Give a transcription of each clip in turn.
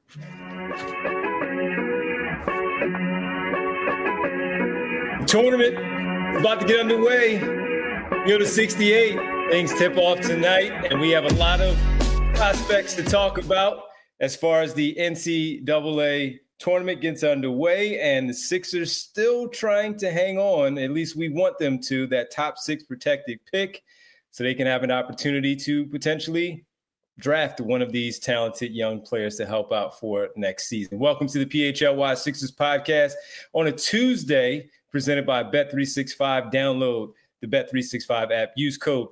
Tournament is about to get underway. Go to 68. Things tip off tonight, and we have a lot of prospects to talk about as far as the NCAA tournament gets underway, and the Sixers still trying to hang on. At least we want them to, that top 6 protected pick, so they can have an opportunity to potentially draft one of these talented young players to help out for next season. Welcome to the PHLY Sixers podcast on a Tuesday, presented by Bet365. Download the Bet365 app. Use code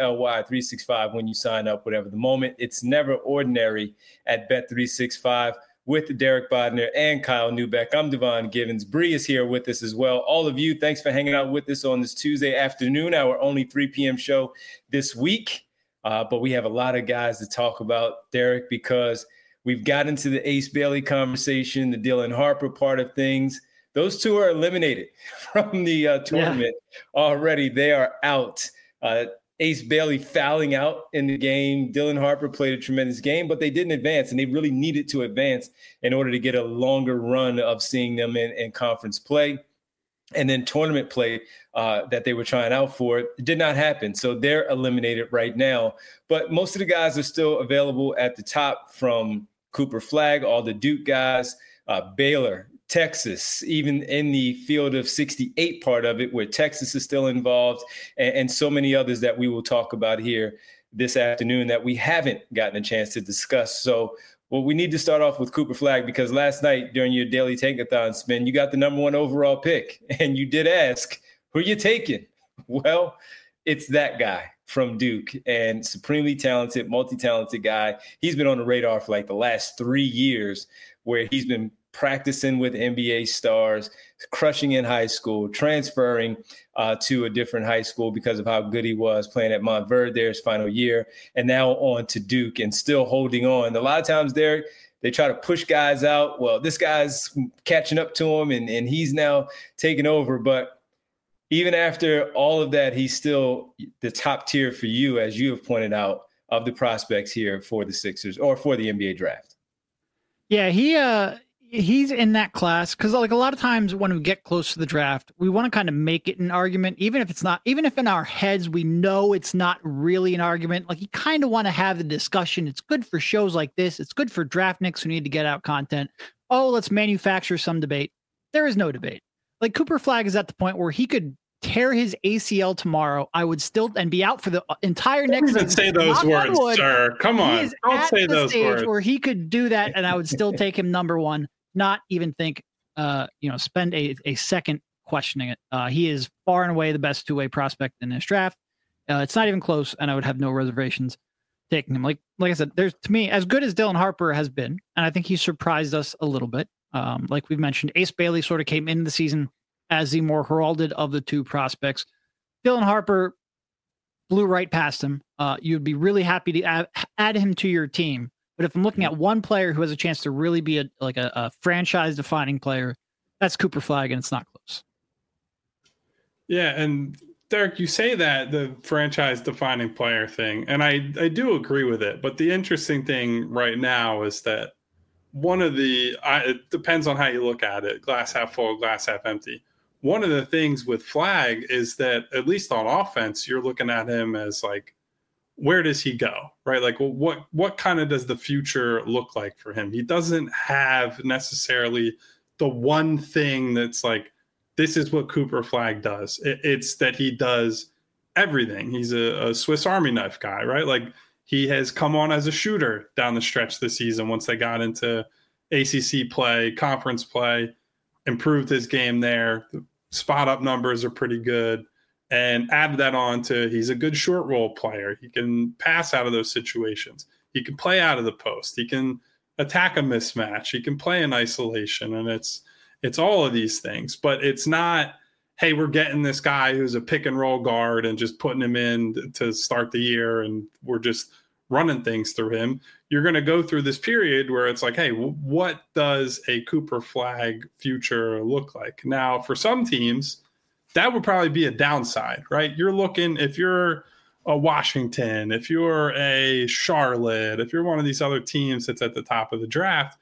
PHLY365 when you sign up, whatever the moment. It's never ordinary at Bet365 with Derek Bodner and Kyle Neubeck. I'm Devon Givens. Bree is here with us as well. All of you, thanks for hanging out with us on this Tuesday afternoon, our only 3 p.m. show this week. But we have a lot of guys to talk about, Derek, because we've got into the Ace Bailey conversation, the Dylan Harper part of things. Those two are eliminated from the tournament already. They are out. Ace Bailey fouling out in the game. Dylan Harper played a tremendous game, but they didn't advance, and they really needed to advance in order to get a longer run of seeing them in conference play. And then tournament play that they were trying out for did not happen. So they're eliminated right now. But most of the guys are still available at the top, from Cooper Flagg, all the Duke guys, Baylor, Texas, even in the field of 68 part of it, where Texas is still involved, and so many others that we will talk about here this afternoon that we haven't gotten a chance to discuss. So, well, we need to start off with Cooper Flagg, because last night during your daily tankathon spin, you got the number 1 overall pick, and you did ask, who are you taking? Well, it's that guy from Duke, and supremely talented, multi-talented guy. He's been on the radar for like the last 3 years, where he's been practicing with NBA stars, crushing in high school, transferring to a different high school because of how good he was playing at Montverde his final year, and now on to Duke and still holding on. A lot of times they try to push guys out. Well, this guy's catching up to him, and he's now taking over. But even after all of that, he's still the top tier for you, as you have pointed out, of the prospects here for the Sixers or for the NBA draft. Yeah, he's in that class because, like, a lot of times when we get close to the draft, we want to kind of make it an argument, even if in our heads we know it's not really an argument. Like, you kind of want to have the discussion. It's good for shows like this. It's good for draftniks who need to get out content. Oh, let's manufacture some debate. There is no debate. Like, Cooper Flagg is at the point where he could tear his ACL tomorrow. I would still and be out for the entire next season. Don't say those words, sir. Come on. Don't say those words. Where he could do that, and I would still take him number 1. Not even think, spend a second questioning it. He is far and away the best 2-way prospect in this draft. It's not even close, and I would have no reservations taking him. Like I said, there's, to me, as good as Dylan Harper has been, and I think he surprised us a little bit. Like we've mentioned, Ace Bailey sort of came into the season as the more heralded of the 2 prospects. Dylan Harper blew right past him. You'd be really happy to add him to your team. But if I'm looking at one player who has a chance to really be a franchise-defining player, that's Cooper Flagg, and it's not close. Yeah, and Derek, you say that, the franchise-defining player thing, and I do agree with it. But the interesting thing right now is that it depends on how you look at it, glass half full, glass half empty. One of the things with Flagg is that, at least on offense, you're looking at him as like, where does he go, right? Like, what kind of does the future look like for him? He doesn't have necessarily the one thing that's like, this is what Cooper Flagg does. It's that he does everything. He's a Swiss Army knife guy, right? Like, he has come on as a shooter down the stretch this season once they got into ACC play, conference play, improved his game there. The spot-up numbers are pretty good. And add that on to, he's a good short roll player. He can pass out of those situations. He can play out of the post. He can attack a mismatch. He can play in isolation. And it's all of these things. But it's not, hey, we're getting this guy who's a pick and roll guard and just putting him in to start the year, and we're just running things through him. You're going to go through this period where it's like, hey, what does a Cooper Flagg future look like? Now, for some teams, that would probably be a downside, right? You're looking, if you're a Washington, if you're a Charlotte, if you're one of these other teams that's at the top of the draft,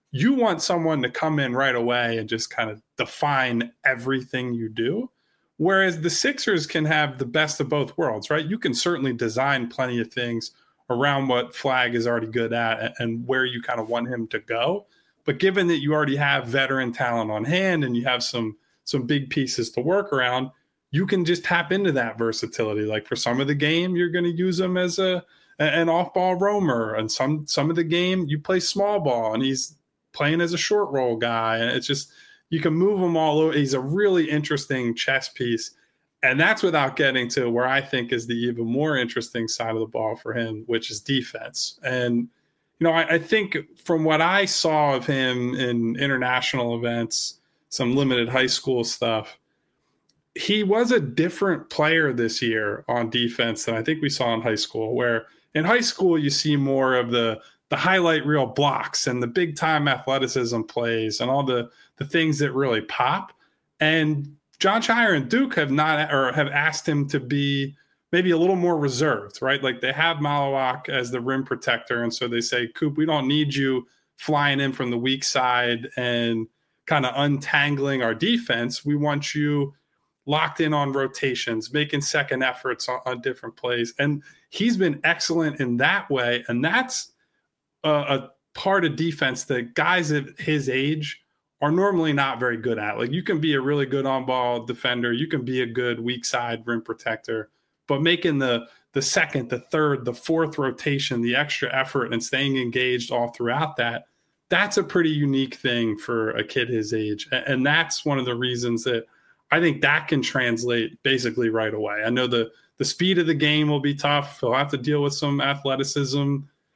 you want someone to come in right away and just kind of define everything you do. Whereas the Sixers can have the best of both worlds, right? You can certainly design plenty of things around what Flagg is already good at and where you kind of want him to go. But given that you already have veteran talent on hand and you have some big pieces to work around, you can just tap into that versatility. Like for some of the game, you're going to use him as an off-ball roamer, and some of the game you play small ball and he's playing as a short roll guy. And it's just, you can move him all over. He's a really interesting chess piece. And that's without getting to where I think is the even more interesting side of the ball for him, which is defense. And, I think from what I saw of him in international events, some limited high school stuff, he was a different player this year on defense than I think we saw in high school, where in high school you see more of the highlight reel blocks and the big time athleticism plays and all the things that really pop. And Jon Scheyer and Duke have asked him to be maybe a little more reserved, right? Like they have Malawak as the rim protector. And so they say, Coop, we don't need you flying in from the weak side and kind of untangling our defense. We want you locked in on rotations, making second efforts on different plays. And he's been excellent in that way. And that's a part of defense that guys at his age are normally not very good at. Like you can be a really good on-ball defender. You can be a good weak side rim protector, but making the second, the third, the fourth rotation, the extra effort and staying engaged all throughout that's a pretty unique thing for a kid his age. And that's one of the reasons that I think that can translate basically right away. I know the speed of the game will be tough. He'll have to deal with some athleticism.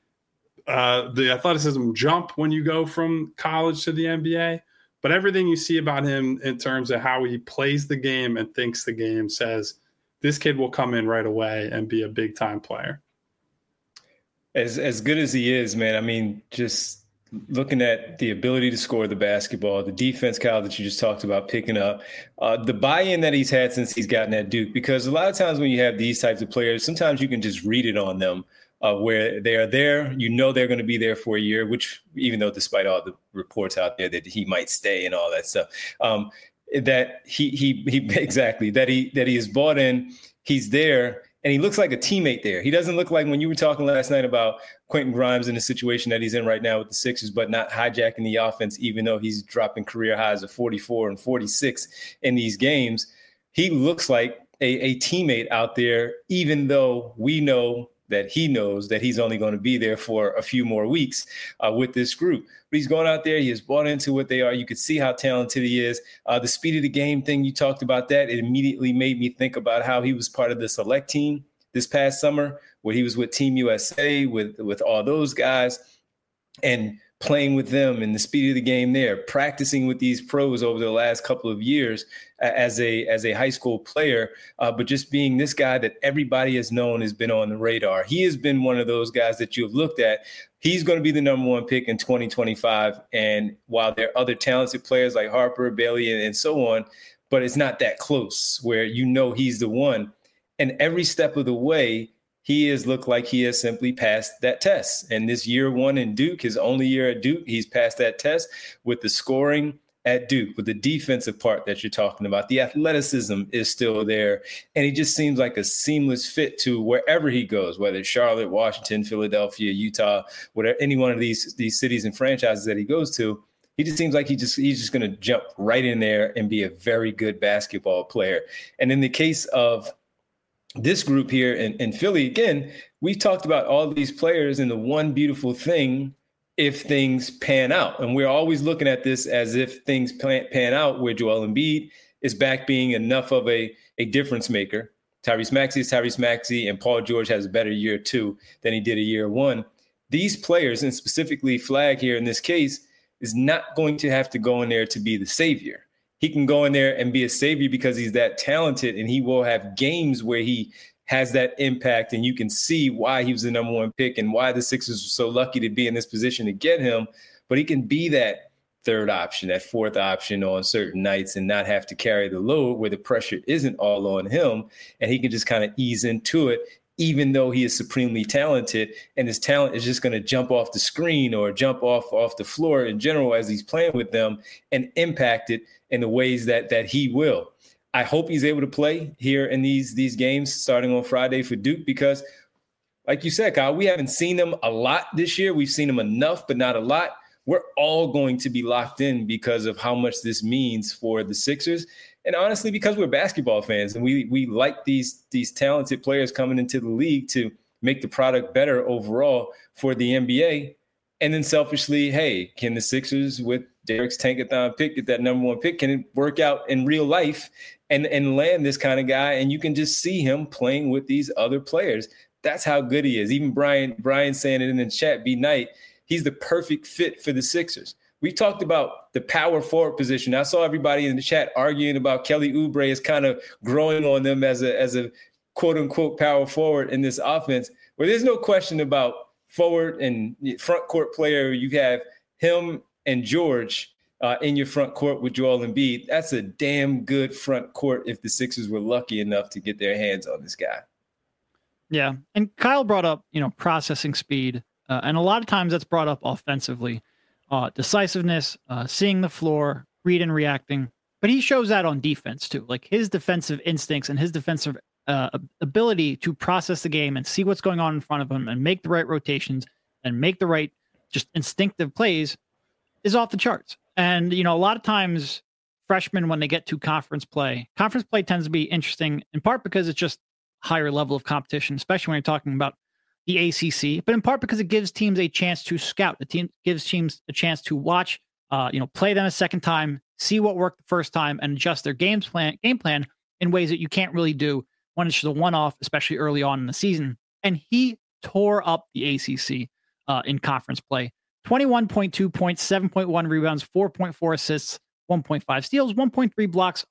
The athleticism jump when you go from college to the NBA. But everything you see about him in terms of how he plays the game and thinks the game says this kid will come in right away and be a big time player. As good as he is, man, I mean, just looking at the ability to score the basketball, the defense, Kyle, that you just talked about picking up, the buy-in that he's had since he's gotten at Duke, because a lot of times when you have these types of players, sometimes you can just read it on them. Where they are there, they're going to be there for a year, which even though despite all the reports out there that he might stay and all that stuff, that he exactly, that he is bought in, he's there, and he looks like a teammate there. He doesn't look like when you were talking last night about Quentin Grimes in the situation that he's in right now with the Sixers, but not hijacking the offense, even though he's dropping career highs of 44 and 46 in these games. He looks like a teammate out there, even though we know that he knows that he's only going to be there for a few more weeks with this group. But he's going out there. He has bought into what they are. You could see how talented he is. The speed of the game thing, you talked about that. It immediately made me think about how he was part of the select team this past summer, where he was with Team USA, with all those guys, and playing with them and the speed of the game there, practicing with these pros over the last couple of years as a high school player, but just being this guy that everybody has known has been on the radar. He has been one of those guys that you've looked at. He's going to be the number one pick in 2025. And while there are other talented players like Harper, Bailey, and so on, but it's not that close where he's the one. And every step of the way, he has looked like he has simply passed that test. And this year one in Duke, his only year at Duke, he's passed that test with the scoring at Duke, with the defensive part that you're talking about. The athleticism is still there. And he just seems like a seamless fit to wherever he goes, whether it's Charlotte, Washington, Philadelphia, Utah, whatever, any one of these cities and franchises that he goes to. He just seems like he's just going to jump right in there and be a very good basketball player. And in the case of this group here in Philly, again, we've talked about all these players and the one beautiful thing, if things pan out. And we're always looking at this as if things pan out, where Joel Embiid is back being enough of a difference maker. Tyrese Maxey is Tyrese Maxey, and Paul George has a better year two than he did a year one. These players, and specifically Flagg here in this case, is not going to have to go in there to be the savior. He can go in there and be a savior because he's that talented, and he will have games where he has that impact, and you can see why he was the number one pick and why the Sixers were so lucky to be in this position to get him. But he can be that third option, that fourth option on certain nights and not have to carry the load where the pressure isn't all on him, and he can just kind of ease into it even though he is supremely talented, and his talent is just going to jump off the screen or jump off the floor in general as he's playing with them and impact it in the ways that he will. I hope he's able to play here in these games starting on Friday for Duke, because like you said, Kyle, we haven't seen them a lot this year. We've seen them enough, but not a lot. We're all going to be locked in because of how much this means for the Sixers. And honestly, because we're basketball fans and we like these talented players coming into the league to make the product better overall for the NBA. And then selfishly, hey, can the Sixers with Derek's Tankathon pick, get that number one pick? Can it work out in real life and land this kind of guy? And you can just see him playing with these other players. That's how good he is. Even Brian saying it in the chat, B-Night, he's the perfect fit for the Sixers. We talked about the power forward position. I saw everybody in the chat arguing about Kelly Oubre is kind of growing on them as a quote unquote power forward in this offense. Well, there's no question about forward and front court player. You have him and George in your front court with Joel Embiid. That's a damn good front court if the Sixers were lucky enough to get their hands on this guy. Yeah. And Kyle brought up, processing speed. And a lot of times that's brought up offensively. Decisiveness, seeing the floor, read and reacting. But he shows that on defense too. Like his defensive instincts and his defensive ability to process the game and see what's going on in front of him and make the right rotations and make the right just instinctive plays is off the charts. And, a lot of times freshmen, when they get to conference play tends to be interesting in part because it's just higher level of competition, especially when you're talking about the ACC, but in part because it gives teams a chance to scout. The team gives teams a chance to watch, play them a second time, see what worked the first time, and adjust their game plan in ways that you can't really do when it's just a one-off, especially early on in the season. And he tore up the ACC in conference play. 21.2 points, 7.1 rebounds, 4.4 assists, 1.5 steals, 1.3 blocks,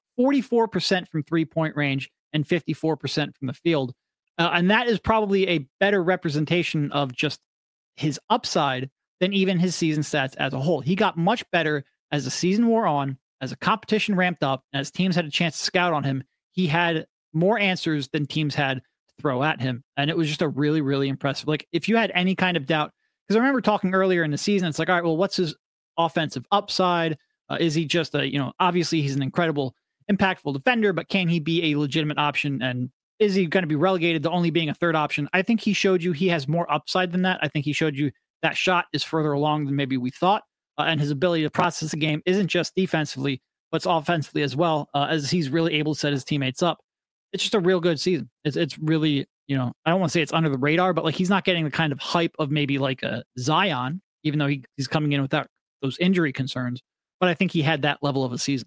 44% from three-point range, and 54% from the field. And that is probably a better representation of just his upside than even his season stats as a whole. He got much better as the season wore on, as the competition ramped up, and as teams had a chance to scout on him. He had more answers than teams had to throw at him. And it was just a really, really impressive. Like, if you had any kind of doubt, because I remember talking earlier in the season, it's like, all right, well, what's his offensive upside? Is he just obviously he's an incredible, impactful defender, but can he be a legitimate option? And is he going to be relegated to only being a third option? I think he showed you he has more upside than that. I think he showed you that shot is further along than maybe we thought. And his ability to process the game isn't just defensively, but it's offensively as well, as he's really able to set his teammates up. It's just a real good season. It's really, I don't want to say it's under the radar, but like he's not getting the kind of hype of maybe like a Zion, even though he's coming in without those injury concerns. But I think he had that level of a season.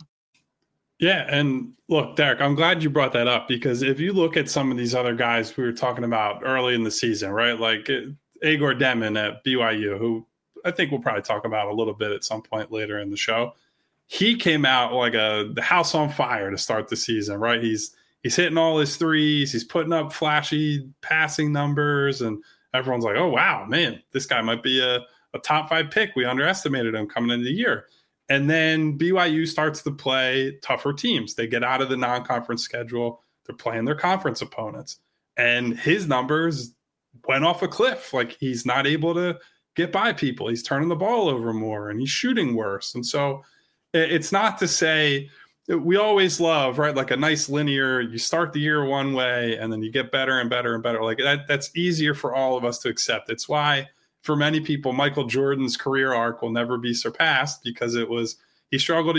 Yeah, and look, Derek, I'm glad you brought that up, because if you look at some of these other guys we were talking about early in the season, right, like Igor Demon at BYU, who I think we'll probably talk about a little bit at some point later in the show, he came out like the house on fire to start the season, right? He's hitting all his threes, he's putting up flashy passing numbers, and everyone's like, oh, wow, man, this guy might be a top 5 pick. We underestimated him coming into the year. And then BYU starts to play tougher teams. They get out of the non-conference schedule. They're playing their conference opponents. And his numbers went off a cliff. Like, he's not able to get by people. He's turning the ball over more, and he's shooting worse. And so it's not to say we always love, right, like a nice linear, you start the year one way and then you get better and better and better. Like that's easier for all of us to accept. It's why for many people, Michael Jordan's career arc will never be surpassed, because he struggled,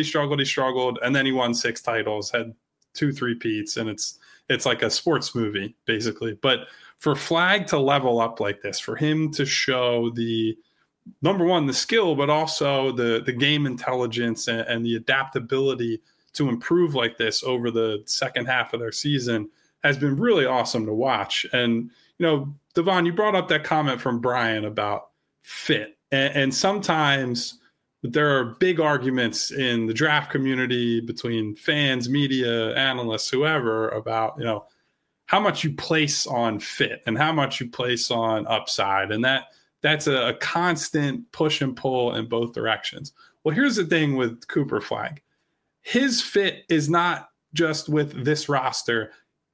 and then he won 6 titles, had 2 3-peats, and it's like a sports movie, basically. But for Flagg to level up like this, for him to show the, number one, the skill, but also the game intelligence and the adaptability to improve like this over the second half of their season has been really awesome to watch. And, Devon, you brought up that comment from Brian about fit. And sometimes there are big arguments in the draft community between fans, media, analysts, whoever, about, how much you place on fit and how much you place on upside. And that's a constant push and pull in both directions. Well, here's the thing with Cooper Flagg. His fit is not just with this roster.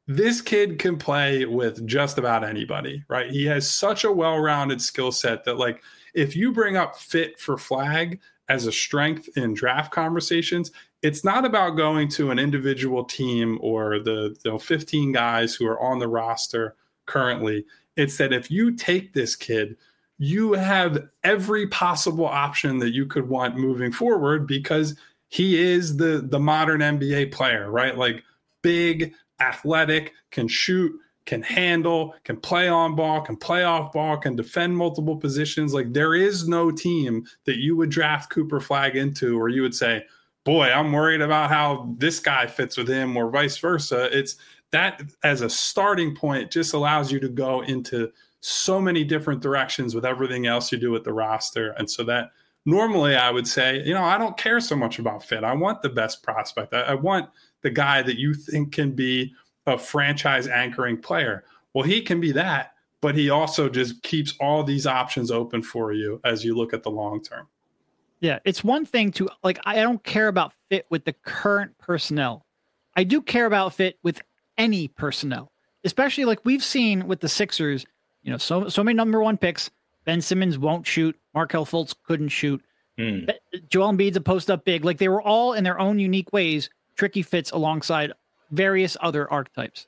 this kid can play with just about anybody, right? He has such a well-rounded skill set that, like, if you bring up fit for flag as a strength in draft conversations, it's not about going to an individual team or the 15 guys who are on the roster currently. It's that if you take this kid, you have every possible option that you could want moving forward, because he is the modern NBA player, right? Like, big, athletic, can shoot, can handle, can play on ball, can play off ball, can defend multiple positions. Like, there is no team that you would draft Cooper Flagg into where you would say, boy, I'm worried about how this guy fits with him, or vice versa. It's that, as a starting point, just allows you to go into so many different directions with everything else you do with the roster. And so that normally I would say, I don't care so much about fit. I want the best prospect. I want the guy that you think can be a franchise anchoring player. Well, he can be that, but he also just keeps all these options open for you as you look at the long term. Yeah, it's one thing to, like, I don't care about fit with the current personnel. I do care about fit with any personnel, especially like we've seen with the Sixers, so many number one picks. Ben Simmons won't shoot. Markelle Fultz couldn't shoot. Joel Embiid's a post up big. Like, they were all in their own unique ways tricky fits alongside various other archetypes.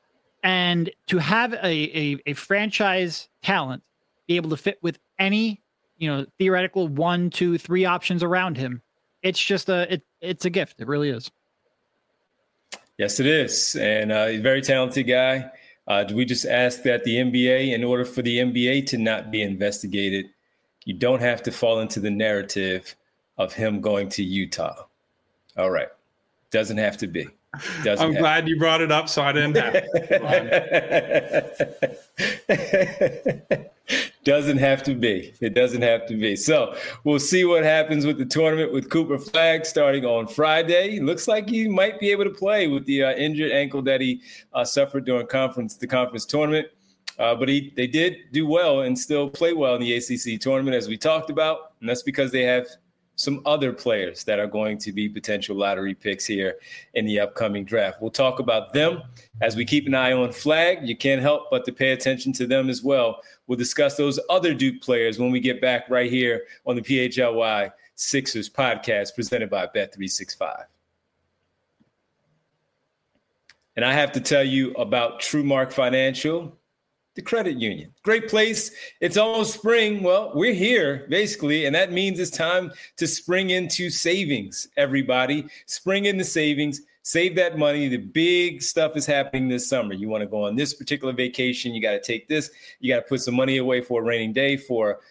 And to have a franchise talent be able to fit with any theoretical 1, 2, 3 options around him, it's just it's a gift. It really is. Yes, it is. And he's a very talented guy. Do we just ask that the NBA, in order for the NBA to not be investigated, you don't have to fall into the narrative of him going to Utah? All right. Doesn't have to be. I'm glad you brought it up, so I didn't have it. Doesn't have to be. It doesn't have to be. So we'll see what happens with the tournament with Cooper Flagg starting on Friday. Looks like he might be able to play with the injured ankle that he suffered during the conference tournament. But they did do well and still play well in the ACC tournament, as we talked about. And that's because they have some other players that are going to be potential lottery picks here in the upcoming draft. We'll talk about them as we keep an eye on Flagg. You can't help but to pay attention to them as well. We'll discuss those other Duke players when we get back right here on the PHLY Sixers podcast presented by Bet365. And I have to tell you about TrueMark Financial, the credit union. Great place. It's almost spring. Well, we're here basically, and that means it's time to spring into savings, everybody. Spring into savings. Save that money. The big stuff is happening this summer. You want to go on this particular vacation. You got to take this. You got to put some money away for a rainy day, for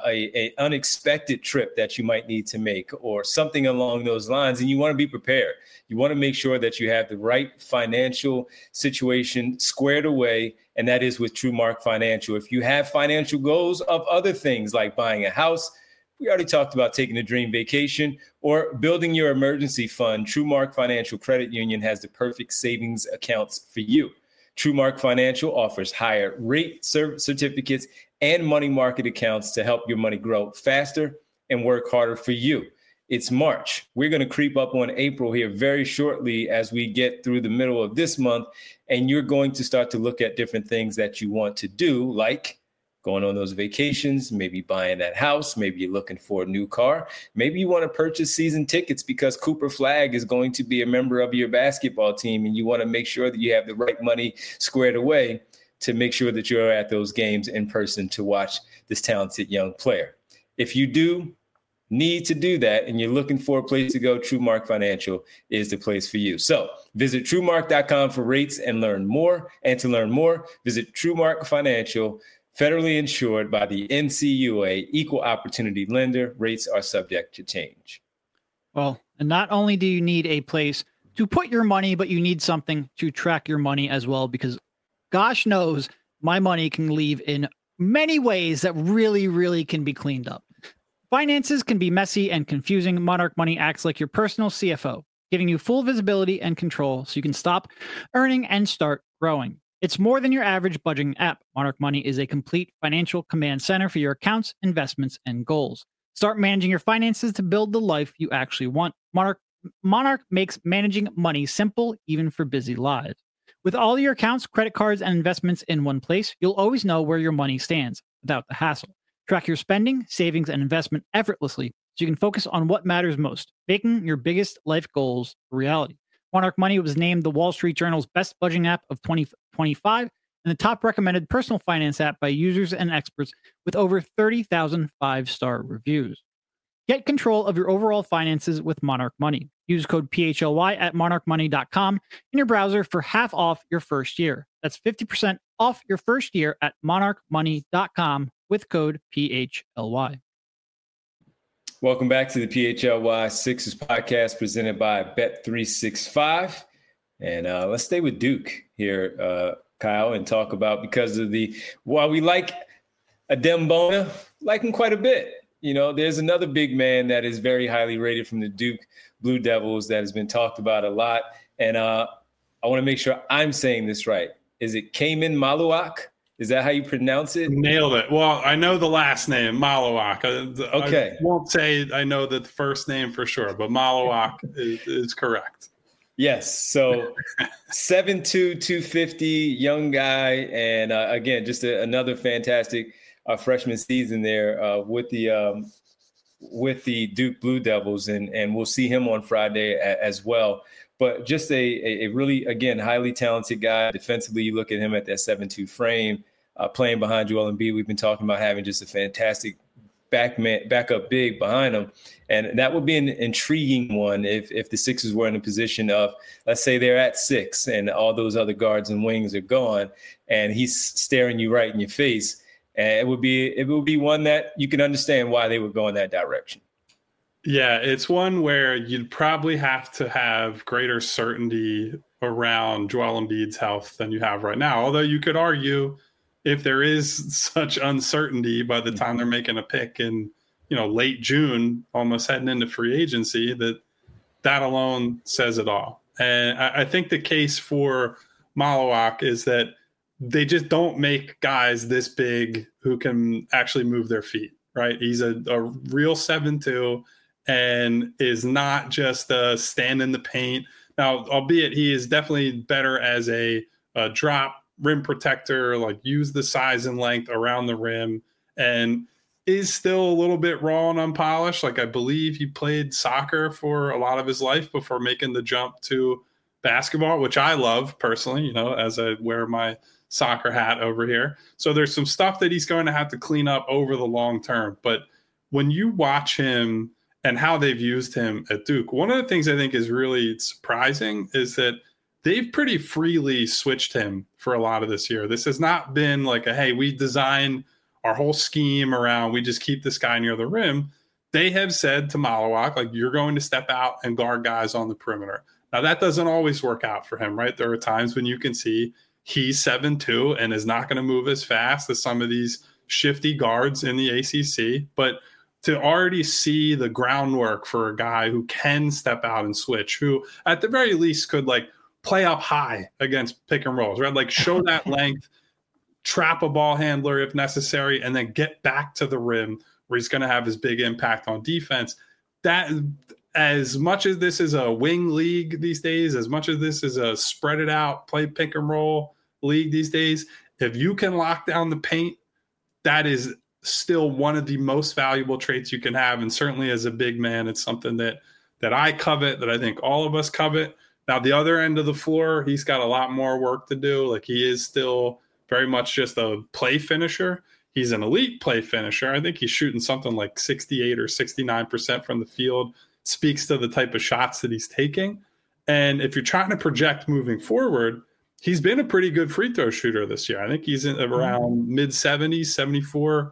a unexpected trip that you might need to make, or something along those lines. And you want to be prepared. You want to make sure that you have the right financial situation squared away, and that is with TrueMark Financial. If you have financial goals of other things like buying a house, we already talked about taking a dream vacation, or building your emergency fund, TrueMark Financial Credit Union has the perfect savings accounts for you. TrueMark Financial offers higher rate certificates and money market accounts to help your money grow faster and work harder for you. It's March. We're going to creep up on April here very shortly as we get through the middle of this month, and you're going to start to look at different things that you want to do, like going on those vacations, maybe buying that house, maybe you're looking for a new car, maybe you want to purchase season tickets because Cooper Flagg is going to be a member of your basketball team, and you want to make sure that you have the right money squared away to make sure that you're at those games in person to watch this talented young player. If you do need to do that and you're looking for a place to go, TrueMark Financial is the place for you. So visit TrueMark.com for rates and learn more. And to learn more, visit TrueMark Financial, federally insured by the NCUA, equal opportunity lender. Rates are subject to change. Well, and not only do you need a place to put your money, but you need something to track your money as well, because gosh knows my money can leave in many ways that really, really can be cleaned up. Finances can be messy and confusing. Monarch Money acts like your personal CFO, giving you full visibility and control so you can stop earning and start growing. It's more than your average budgeting app. Monarch Money is a complete financial command center for your accounts, investments, and goals. Start managing your finances to build the life you actually want. Monarch makes managing money simple, even for busy lives. With all your accounts, credit cards, and investments in one place, you'll always know where your money stands without the hassle. Track your spending, savings, and investment effortlessly so you can focus on what matters most, making your biggest life goals a reality. Monarch Money was named the Wall Street Journal's best budgeting app of 2025 and the top recommended personal finance app by users and experts with over 30,000 five-star reviews. Get control of your overall finances with Monarch Money. Use code PHLY at monarchmoney.com in your browser for half off your first year. That's 50% off your first year at monarchmoney.com with code PHLY. Welcome back to the PHLY Sixers podcast presented by Bet365. And let's stay with Duke here, Kyle, and talk about, because of while we like Adem Bona, like him quite a bit. You know, there's another big man that is very highly rated from the Duke Blue Devils that has been talked about a lot. And I want to make sure I'm saying this right. Is it Kaman Maluach? Is that how you pronounce it? Nailed it. Well, I know the last name, Maluach. Okay. I won't say I know the first name for sure, but Maluach is correct. Yes. So 7'2", 250, young guy. And again, just another fantastic freshman season there with the Duke Blue Devils. And we'll see him on Friday as well. But just a really, again, highly talented guy. Defensively, you look at him at that 7'2" frame, playing behind Joel Embiid. We've been talking about having just a fantastic backup big behind him. And that would be an intriguing one if the Sixers were in a position of, let's say they're at 6 and all those other guards and wings are gone and he's staring you right in your face. And it would be one that you can understand why they would go in that direction. Yeah, it's one where you'd probably have to have greater certainty around Joel Embiid's health than you have right now. Although you could argue if there is such uncertainty by the time they're making a pick in, late June, almost heading into free agency, that alone says it all. And I think the case for Maluach is that they just don't make guys this big who can actually move their feet, right? He's a real 7'2", and is not just a stand in the paint. Now, albeit he is definitely better as a drop rim protector, like use the size and length around the rim, and is still a little bit raw and unpolished. Like, I believe he played soccer for a lot of his life before making the jump to basketball, which I love personally, as I wear my soccer hat over here. So there's some stuff that he's going to have to clean up over the long term. But when you watch him and how they've used him at Duke, one of the things I think is really surprising is that they've pretty freely switched him for a lot of this year. This has not been like hey, we design our whole scheme around, we just keep this guy near the rim. They have said to Maluach, like, you're going to step out and guard guys on the perimeter. Now, that doesn't always work out for him, right? There are times when you can see he's 7'2" and is not going to move as fast as some of these shifty guards in the ACC. But to already see the groundwork for a guy who can step out and switch, who at the very least could play up high against pick and rolls, right? Show that length, trap a ball handler if necessary, and then get back to the rim where he's going to have his big impact on defense. That, as much as this is a wing league these days, as much as this is a spread it out, play pick and roll league these days, if you can lock down the paint, that is still one of the most valuable traits you can have. And certainly as a big man, it's something that I covet, that I think all of us covet. Now, the other end of the floor, he's got a lot more work to do. He is still very much just a play finisher. He's an elite play finisher. I think he's shooting something like 68 or 69% from the field. Speaks to the type of shots that he's taking. And if you're trying to project moving forward, he's been a pretty good free throw shooter this year. I think he's in around mid-70s, 74,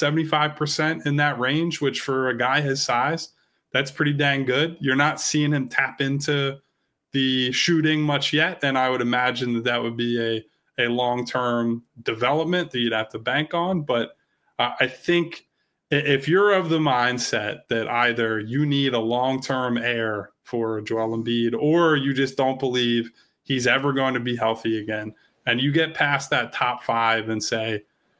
75% in that range, which for a guy his size, that's pretty dang good. You're not seeing him tap into the shooting much yet, and I would imagine that would be a long-term development that you'd have to bank on. But I think if you're of the mindset that either you need a long-term heir for Joel Embiid or you just don't believe he's ever going to be healthy again, and you get past that top 5 and say,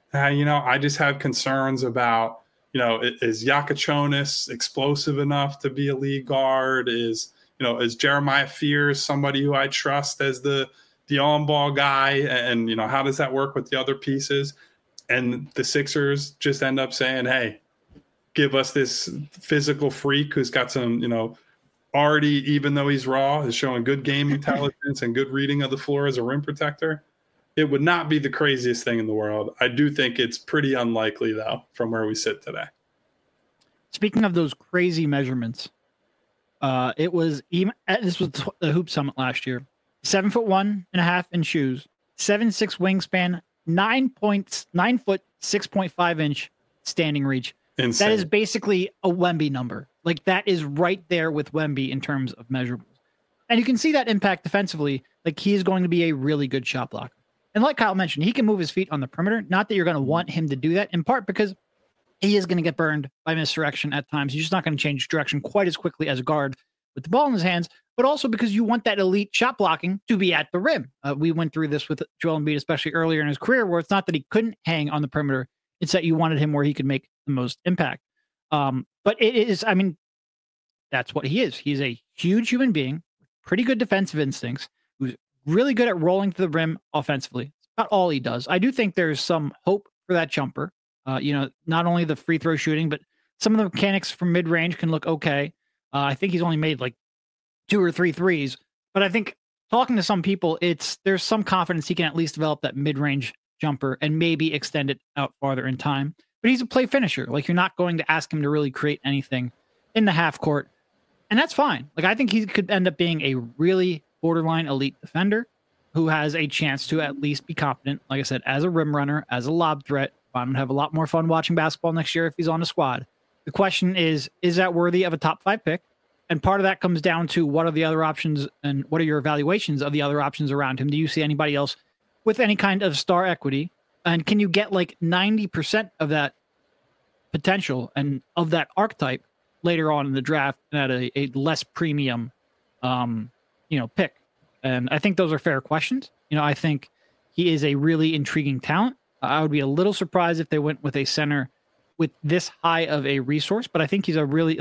I just have concerns about, is Yakachonis explosive enough to be a lead guard? Is Jeremiah Fears somebody who I trust as the the on-ball guy, and how does that work with the other pieces? And the Sixers just end up saying, hey, give us this physical freak who's got some, already, even though he's raw, is showing good game intelligence and good reading of the floor as a rim protector. It would not be the craziest thing in the world. I do think it's pretty unlikely, though, from where we sit today. Speaking of those crazy measurements, this was the Hoop Summit last year. 7'1.5" in shoes, 7'6" wingspan, 9 foot 6.5 inch standing reach. Insane. That is basically a Wemby number. Like, that is right there with Wemby in terms of measurables. And you can see that impact defensively. Like, he is going to be a really good shot blocker. And like Kyle mentioned, he can move his feet on the perimeter. Not that you're going to want him to do that, in part because he is going to get burned by misdirection at times. He's just not going to change direction quite as quickly as a guard with the ball in his hands, but also because you want that elite shot blocking to be at the rim. We went through this with Joel Embiid, especially earlier in his career, where it's not that he couldn't hang on the perimeter. It's that you wanted him where he could make the most impact. But it is, that's what he is. He's a huge human being, pretty good defensive instincts, who's really good at rolling to the rim offensively. It's not all he does. I do think there's some hope for that jumper. Not only the free throw shooting, but some of the mechanics from mid-range can look okay. I think he's only made like 2 or 3 threes, but I think talking to some people, there's some confidence he can at least develop that mid-range jumper and maybe extend it out farther in time. But he's a play finisher. Like, you're not going to ask him to really create anything in the half court, and that's fine. Like, I think he could end up being a really borderline elite defender who has a chance to at least be competent, like I said, as a rim runner, as a lob threat. I'm going to have a lot more fun watching basketball next year if he's on the squad. The question is that worthy of a top 5 pick? And part of that comes down to what are the other options and what are your evaluations of the other options around him? Do you see anybody else with any kind of star equity? And can you get like 90% of that potential and of that archetype later on in the draft at a less premium, pick? And I think those are fair questions. I think he is a really intriguing talent. I would be a little surprised if they went with a center with this high of a resource, but I think he's a really,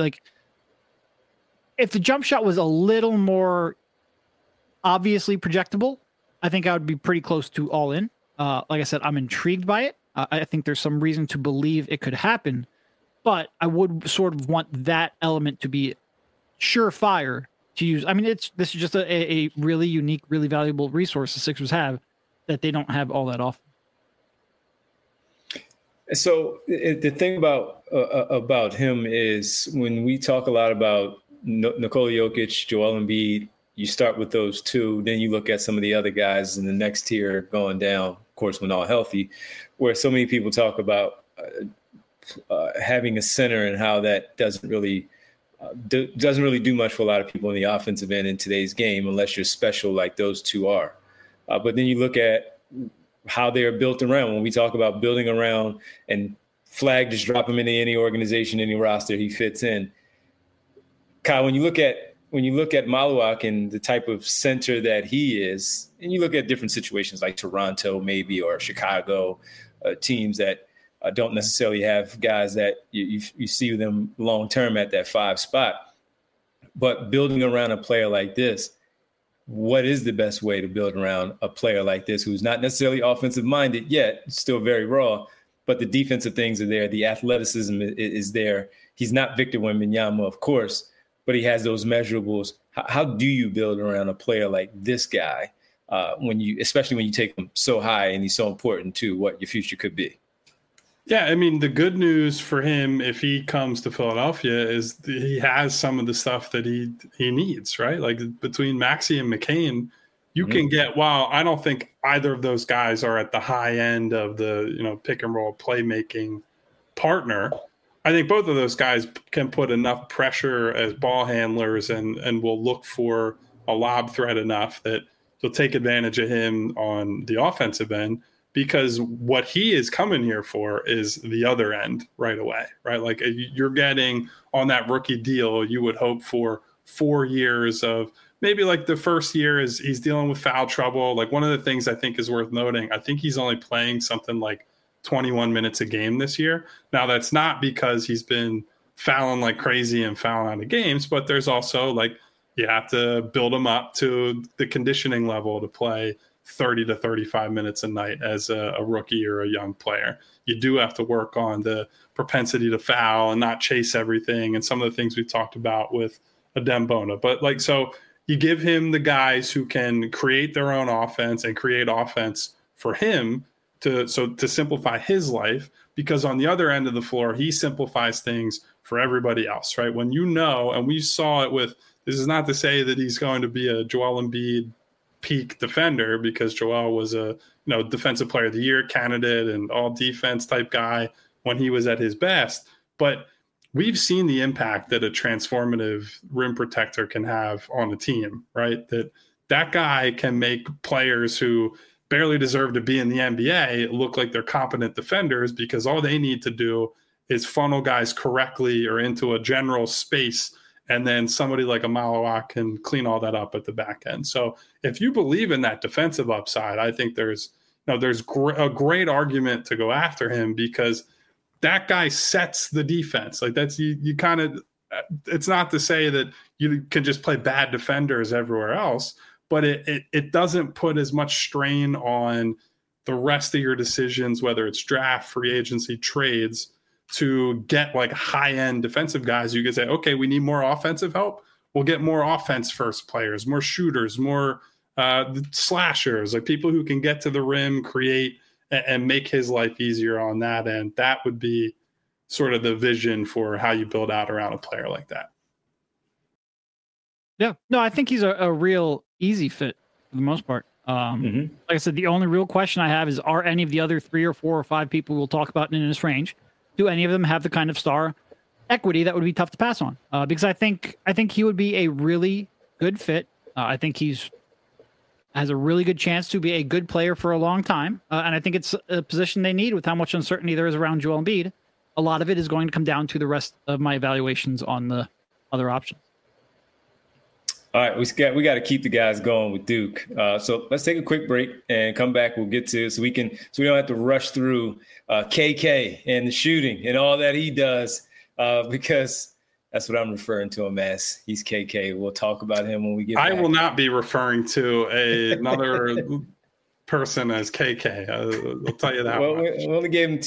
if the jump shot was a little more obviously projectable, I think I would be pretty close to all in. Like I said, I'm intrigued by it. I think there's some reason to believe it could happen, but I would sort of want that element to be surefire to use. This is just a really unique, really valuable resource the Sixers have that they don't have all that often. So the thing about him is when we talk a lot about Nikola Jokic, Joel Embiid, you start with those two, then you look at some of the other guys in the next tier going down, of course, when all healthy, where so many people talk about having a center and how that doesn't really do much for a lot of people in the offensive end in today's game, unless you're special like those two are. But then you look at how they are built around. When we talk about building around and Flag, just drop him into any organization, any roster, he fits in. Kyle, when you look at Maluak and the type of center that he is, and you look at different situations like Toronto maybe or Chicago, teams that don't necessarily have guys that you see them long-term at that 5 spot, but building around a player like this, what is the best way to build around a player like this who's not necessarily offensive minded yet, still very raw, but the defensive things are there. The athleticism is there. He's not Victor Wembanyama, of course, but he has those measurables. How do you build around a player like this guy especially when you take him so high and he's so important to what your future could be? Yeah, the good news for him if he comes to Philadelphia is he has some of the stuff that he needs, right? Like between Maxey and McCain, you can get, while I don't think either of those guys are at the high end of the, pick and roll playmaking partner, I think both of those guys can put enough pressure as ball handlers and will look for a lob threat enough that they'll take advantage of him on the offensive end. Because what he is coming here for is the other end right away, right? Like you're getting on that rookie deal, you would hope for 4 years of maybe like the first year is he's dealing with foul trouble. Like one of the things I think is worth noting, I think he's only playing something like 21 minutes a game this year. Now that's not because he's been fouling like crazy and fouling out of games, but there's also like you have to build him up to the conditioning level to play 30 to 35 minutes a night as a rookie or a young player. You do have to work on the propensity to foul and not chase everything and some of the things we've talked about with Adem Bona. But like, so you give him the guys who can create their own offense and create offense for him to simplify his life, because on the other end of the floor, he simplifies things for everybody else, right? When you know, and we saw it with, this is not to say that he's going to be a Joel Embiid peak defender, because Joel was a defensive player of the year candidate and all defense type guy when he was at his best. But we've seen the impact that a transformative rim protector can have on a team, right? That guy can make players who barely deserve to be in the NBA look like they're competent defenders, because all they need to do is funnel guys correctly or into a general space, and then somebody like a Malawak can clean all that up at the back end. So if you believe in that defensive upside, I think there's a great argument to go after him, because that guy sets the defense. Like, that's you kind of, it's not to say that you can just play bad defenders everywhere else, but it doesn't put as much strain on the rest of your decisions, whether it's draft, free agency, trades, to get like high-end defensive guys. You can say, okay, we need more offensive help. We'll get more offense first players, more shooters, more slashers, like people who can get to the rim, create, and make his life easier on that end. That would be sort of the vision for how you build out around a player like that. Yeah, no, I think he's a real easy fit for the most part. Like I said, the only real question I have is, are any of the other 3 or 4 or 5 people we'll talk about in this range, do any of them have the kind of star equity that would be tough to pass on? Because I think he would be a really good fit. I think has a really good chance to be a good player for a long time. And I think it's a position they need with how much uncertainty there is around Joel Embiid. A lot of it is going to come down to the rest of my evaluations on the other options. All right, we got to keep the guys going with Duke. So let's take a quick break and come back. We'll get to it so we don't have to rush through KK and the shooting and all that he does, because that's what I'm referring to him as. He's KK. We'll talk about him when we get back. I will not be referring to another person as KK. I'll tell you that. Well, we only gave him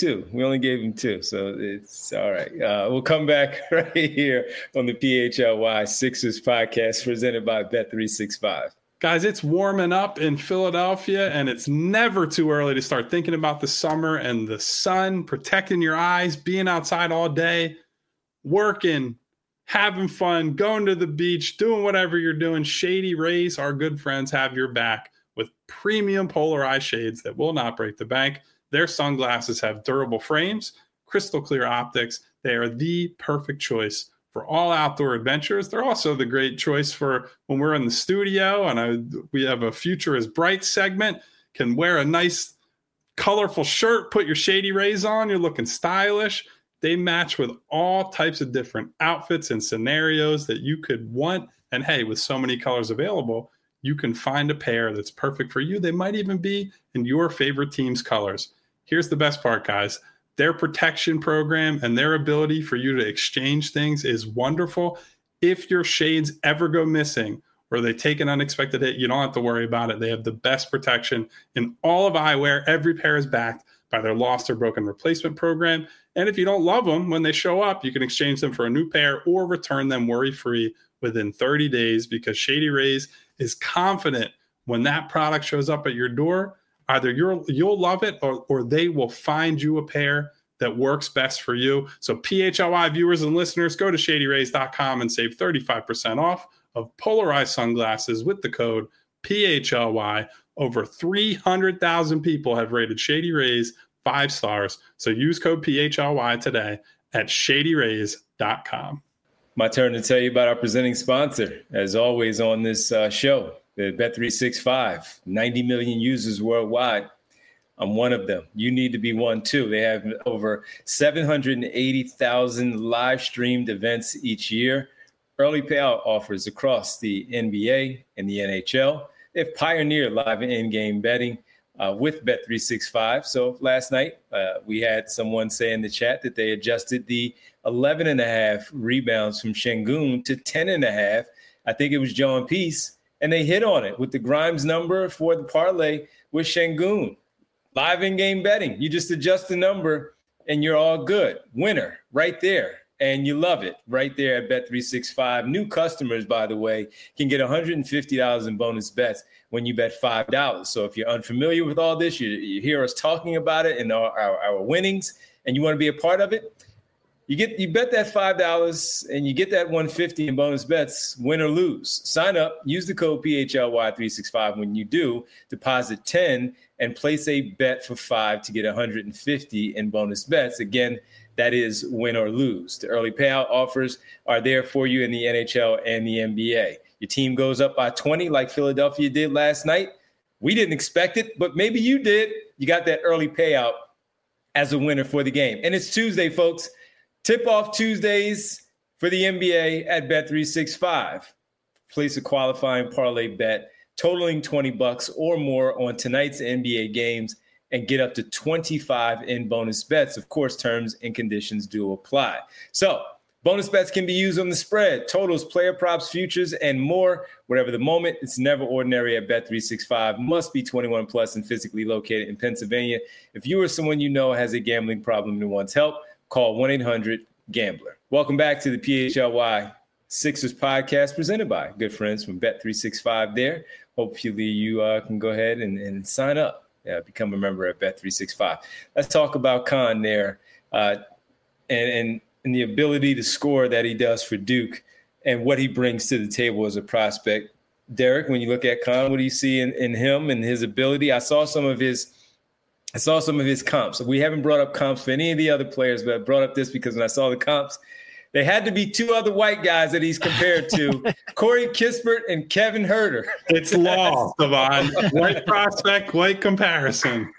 2. So it's all right. We'll come back right here on the PHLY Sixers podcast presented by Bet365. Guys, it's warming up in Philadelphia, and it's never too early to start thinking about the summer and the sun, protecting your eyes, being outside all day, working, having fun, going to the beach, doing whatever you're doing. Shady Rays, our good friends, have your back with premium polar eye shades that will not break the bank. Their sunglasses have durable frames, crystal clear optics. They are the perfect choice for all outdoor adventures. They're also the great choice for when we're in the studio and we have a Future is Bright segment. Can wear a nice colorful shirt, put your Shady Rays on, you're looking stylish. They match with all types of different outfits and scenarios that you could want. And hey, with so many colors available, you can find a pair that's perfect for you. They might even be in your favorite team's colors. Here's the best part, guys. Their protection program and their ability for you to exchange things is wonderful. If your shades ever go missing or they take an unexpected hit, you don't have to worry about it. They have the best protection in all of eyewear. Every pair is backed by their lost or broken replacement program. And if you don't love them when they show up, you can exchange them for a new pair or return them worry-free within 30 days, because Shady Rays is confident when that product shows up at your door, either you'll love it or they will find you a pair that works best for you. So PHLY viewers and listeners, go to ShadyRays.com and save 35% off of polarized sunglasses with the code PHLY. Over 300,000 people have rated Shady Rays 5 stars. So use code PHLY today at ShadyRays.com. My turn to tell you about our presenting sponsor, as always on this show, the Bet365. 90 million users worldwide. I'm one of them. You need to be one too. They have over 780,000 live streamed events each year. Early payout offers across the NBA and the NHL. They've pioneered live and in-game betting with Bet365. So last night we had someone say in the chat that they adjusted the 11.5 rebounds from Şengün to 10.5. I think it was John Peace. and they hit on it with the Grimes number for the parlay with Şengün. Live in-game betting. You just adjust the number and you're all good. Winner right there. And you love it right there at Bet365. New customers, by the way, can get $150 in bonus bets when you bet $5. So if you're unfamiliar with all this, you hear us talking about it and our winnings, and you want to be a part of it, you bet that $5 and you get that $150 in bonus bets, win or lose. Sign up, use the code PHLY365 when you do, deposit 10 and place a bet for $5 to get $150 in bonus bets. Again, that is win or lose. The early payout offers are there for you in the NHL and the NBA. Your team goes up by 20 like Philadelphia did last night. We didn't expect it, but maybe you did. You got that early payout as a winner for the game. And it's Tuesday, folks. Tip-off Tuesdays for the NBA at Bet365. Place a qualifying parlay bet totaling $20 or more on tonight's NBA games and get up to 25 in bonus bets. Of course, terms and conditions do apply. So bonus bets can be used on the spread, totals, player props, futures, and more. Whatever the moment, it's never ordinary at Bet365. Must be 21 plus and physically located in Pennsylvania. If you or someone you know has a gambling problem and wants help, call 1-800-GAMBLER. Welcome back to the PHLY Sixers podcast presented by good friends from Bet365 there. Hopefully you can go ahead and sign up. Become a member at Bet365. Let's talk about Khan there and the ability to score that he does for Duke and what he brings to the table as a prospect. Derek, when you look at Khan, what do you see in him and his ability? I saw some of his comps. We haven't brought up comps for any of the other players, but I brought up this because when I saw the comps, there had to be two other white guys that he's compared to, Corey Kispert and Kevin Huerter. It's law, Savon. White prospect, white comparison.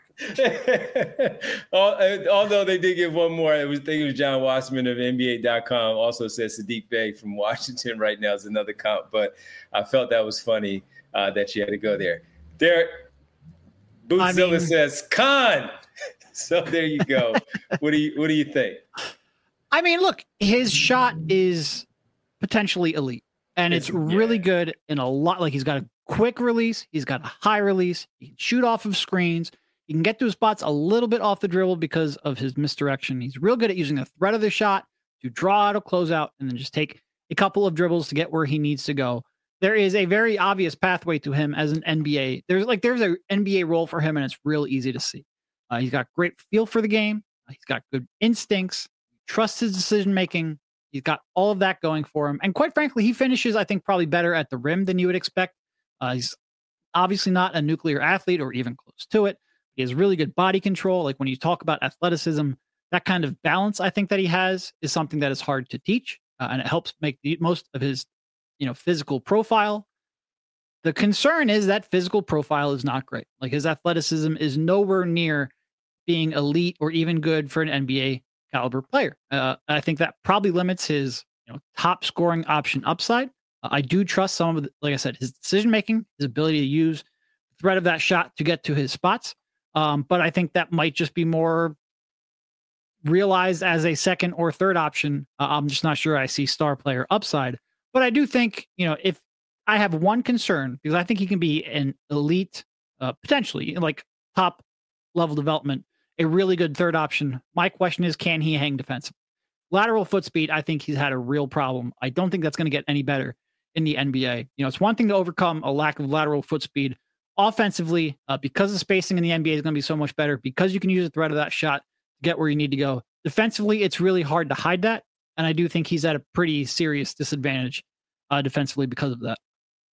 Although they did give one more. I think it was John Wasserman of NBA.com also says Sadiq Bey from Washington right now is another comp, but I felt that was funny that you had to go there. Derek, Bootzilla says, Khan. So there you go. What do you think? I mean, look, his shot is potentially elite, and it's really good in a lot. Like, he's got a quick release. He's got a high release. He can shoot off of screens. He can get to his spots a little bit off the dribble because of his misdirection. He's real good at using the threat of the shot to draw out a closeout and then just take a couple of dribbles to get where he needs to go. There is a very obvious pathway to him as an NBA. There's an NBA role for him, and it's real easy to see. He's got great feel for the game. He's got good instincts. Trusts his decision-making. He's got all of that going for him. And quite frankly, he finishes, I think, probably better at the rim than you would expect. He's obviously not a nuclear athlete or even close to it. He has really good body control. Like, when you talk about athleticism, that kind of balance I think that he has is something that is hard to teach. And it helps make the most of his, physical profile. The concern is that physical profile is not great. Like, his athleticism is nowhere near being elite or even good for an NBA caliber player. I think that probably limits his top scoring option upside. I do trust some of like I said, his decision making, his ability to use the threat of that shot to get to his spots. But I think that might just be more realized as a second or third option. I'm just not sure I see star player upside. But I do think, if I have one concern, because I think he can be an elite, potentially like top level development, a really good third option. My question is, can he hang defensive? Lateral foot speed, I think he's had a real problem. I don't think that's going to get any better in the NBA. It's one thing to overcome a lack of lateral foot speed offensively, because the spacing in the NBA is going to be so much better, because you can use the threat of that shot to get where you need to go. Defensively, it's really hard to hide that. And I do think he's at a pretty serious disadvantage defensively because of that.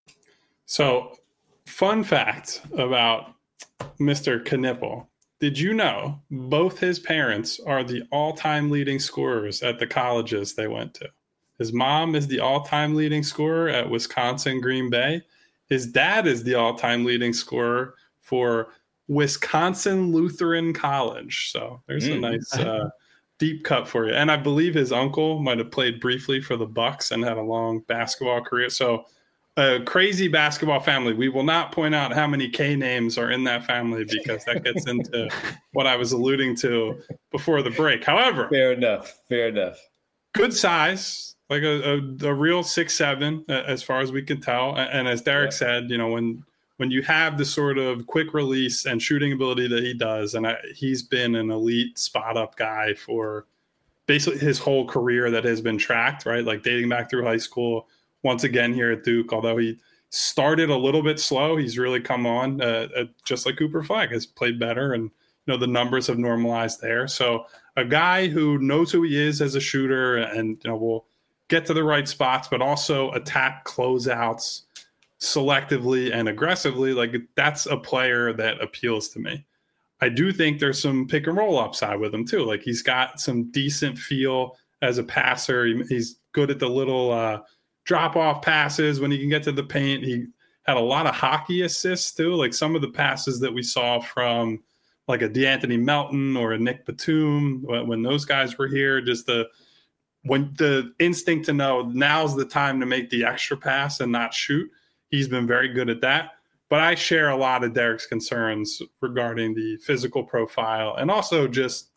So, fun fact about Mr. Knipple. Did you know both his parents are the all-time leading scorers at the colleges they went to? His mom is the all-time leading scorer at Wisconsin Green Bay. His dad is the all-time leading scorer for Wisconsin Lutheran College. So there's a nice deep cut for you. And I believe his uncle might have played briefly for the Bucks and had a long basketball career. So a crazy basketball family. We will not point out how many K names are in that family because that gets into what I was alluding to before the break. However, fair enough. Good size, like a real 6'7", as far as we can tell. And as Derek said, when you have the sort of quick release and shooting ability that he does, and he's been an elite spot up guy for basically his whole career that has been tracked, right? Like dating back through high school, once again here at Duke, although he started a little bit slow, he's really come on, just like Cooper Flagg has played better, and the numbers have normalized there. So a guy who knows who he is as a shooter, and will get to the right spots, but also attack closeouts selectively and aggressively. Like, that's a player that appeals to me. I do think there's some pick and roll upside with him too. Like, he's got some decent feel as a passer. He's good at the little drop off passes when he can get to the paint. He had a lot of hockey assists too. Like some of the passes that we saw from like a DeAnthony Melton or a Nick Batum when those guys were here, just the instinct to know now's the time to make the extra pass and not shoot. He's been very good at that. But I share a lot of Derek's concerns regarding the physical profile. And also just,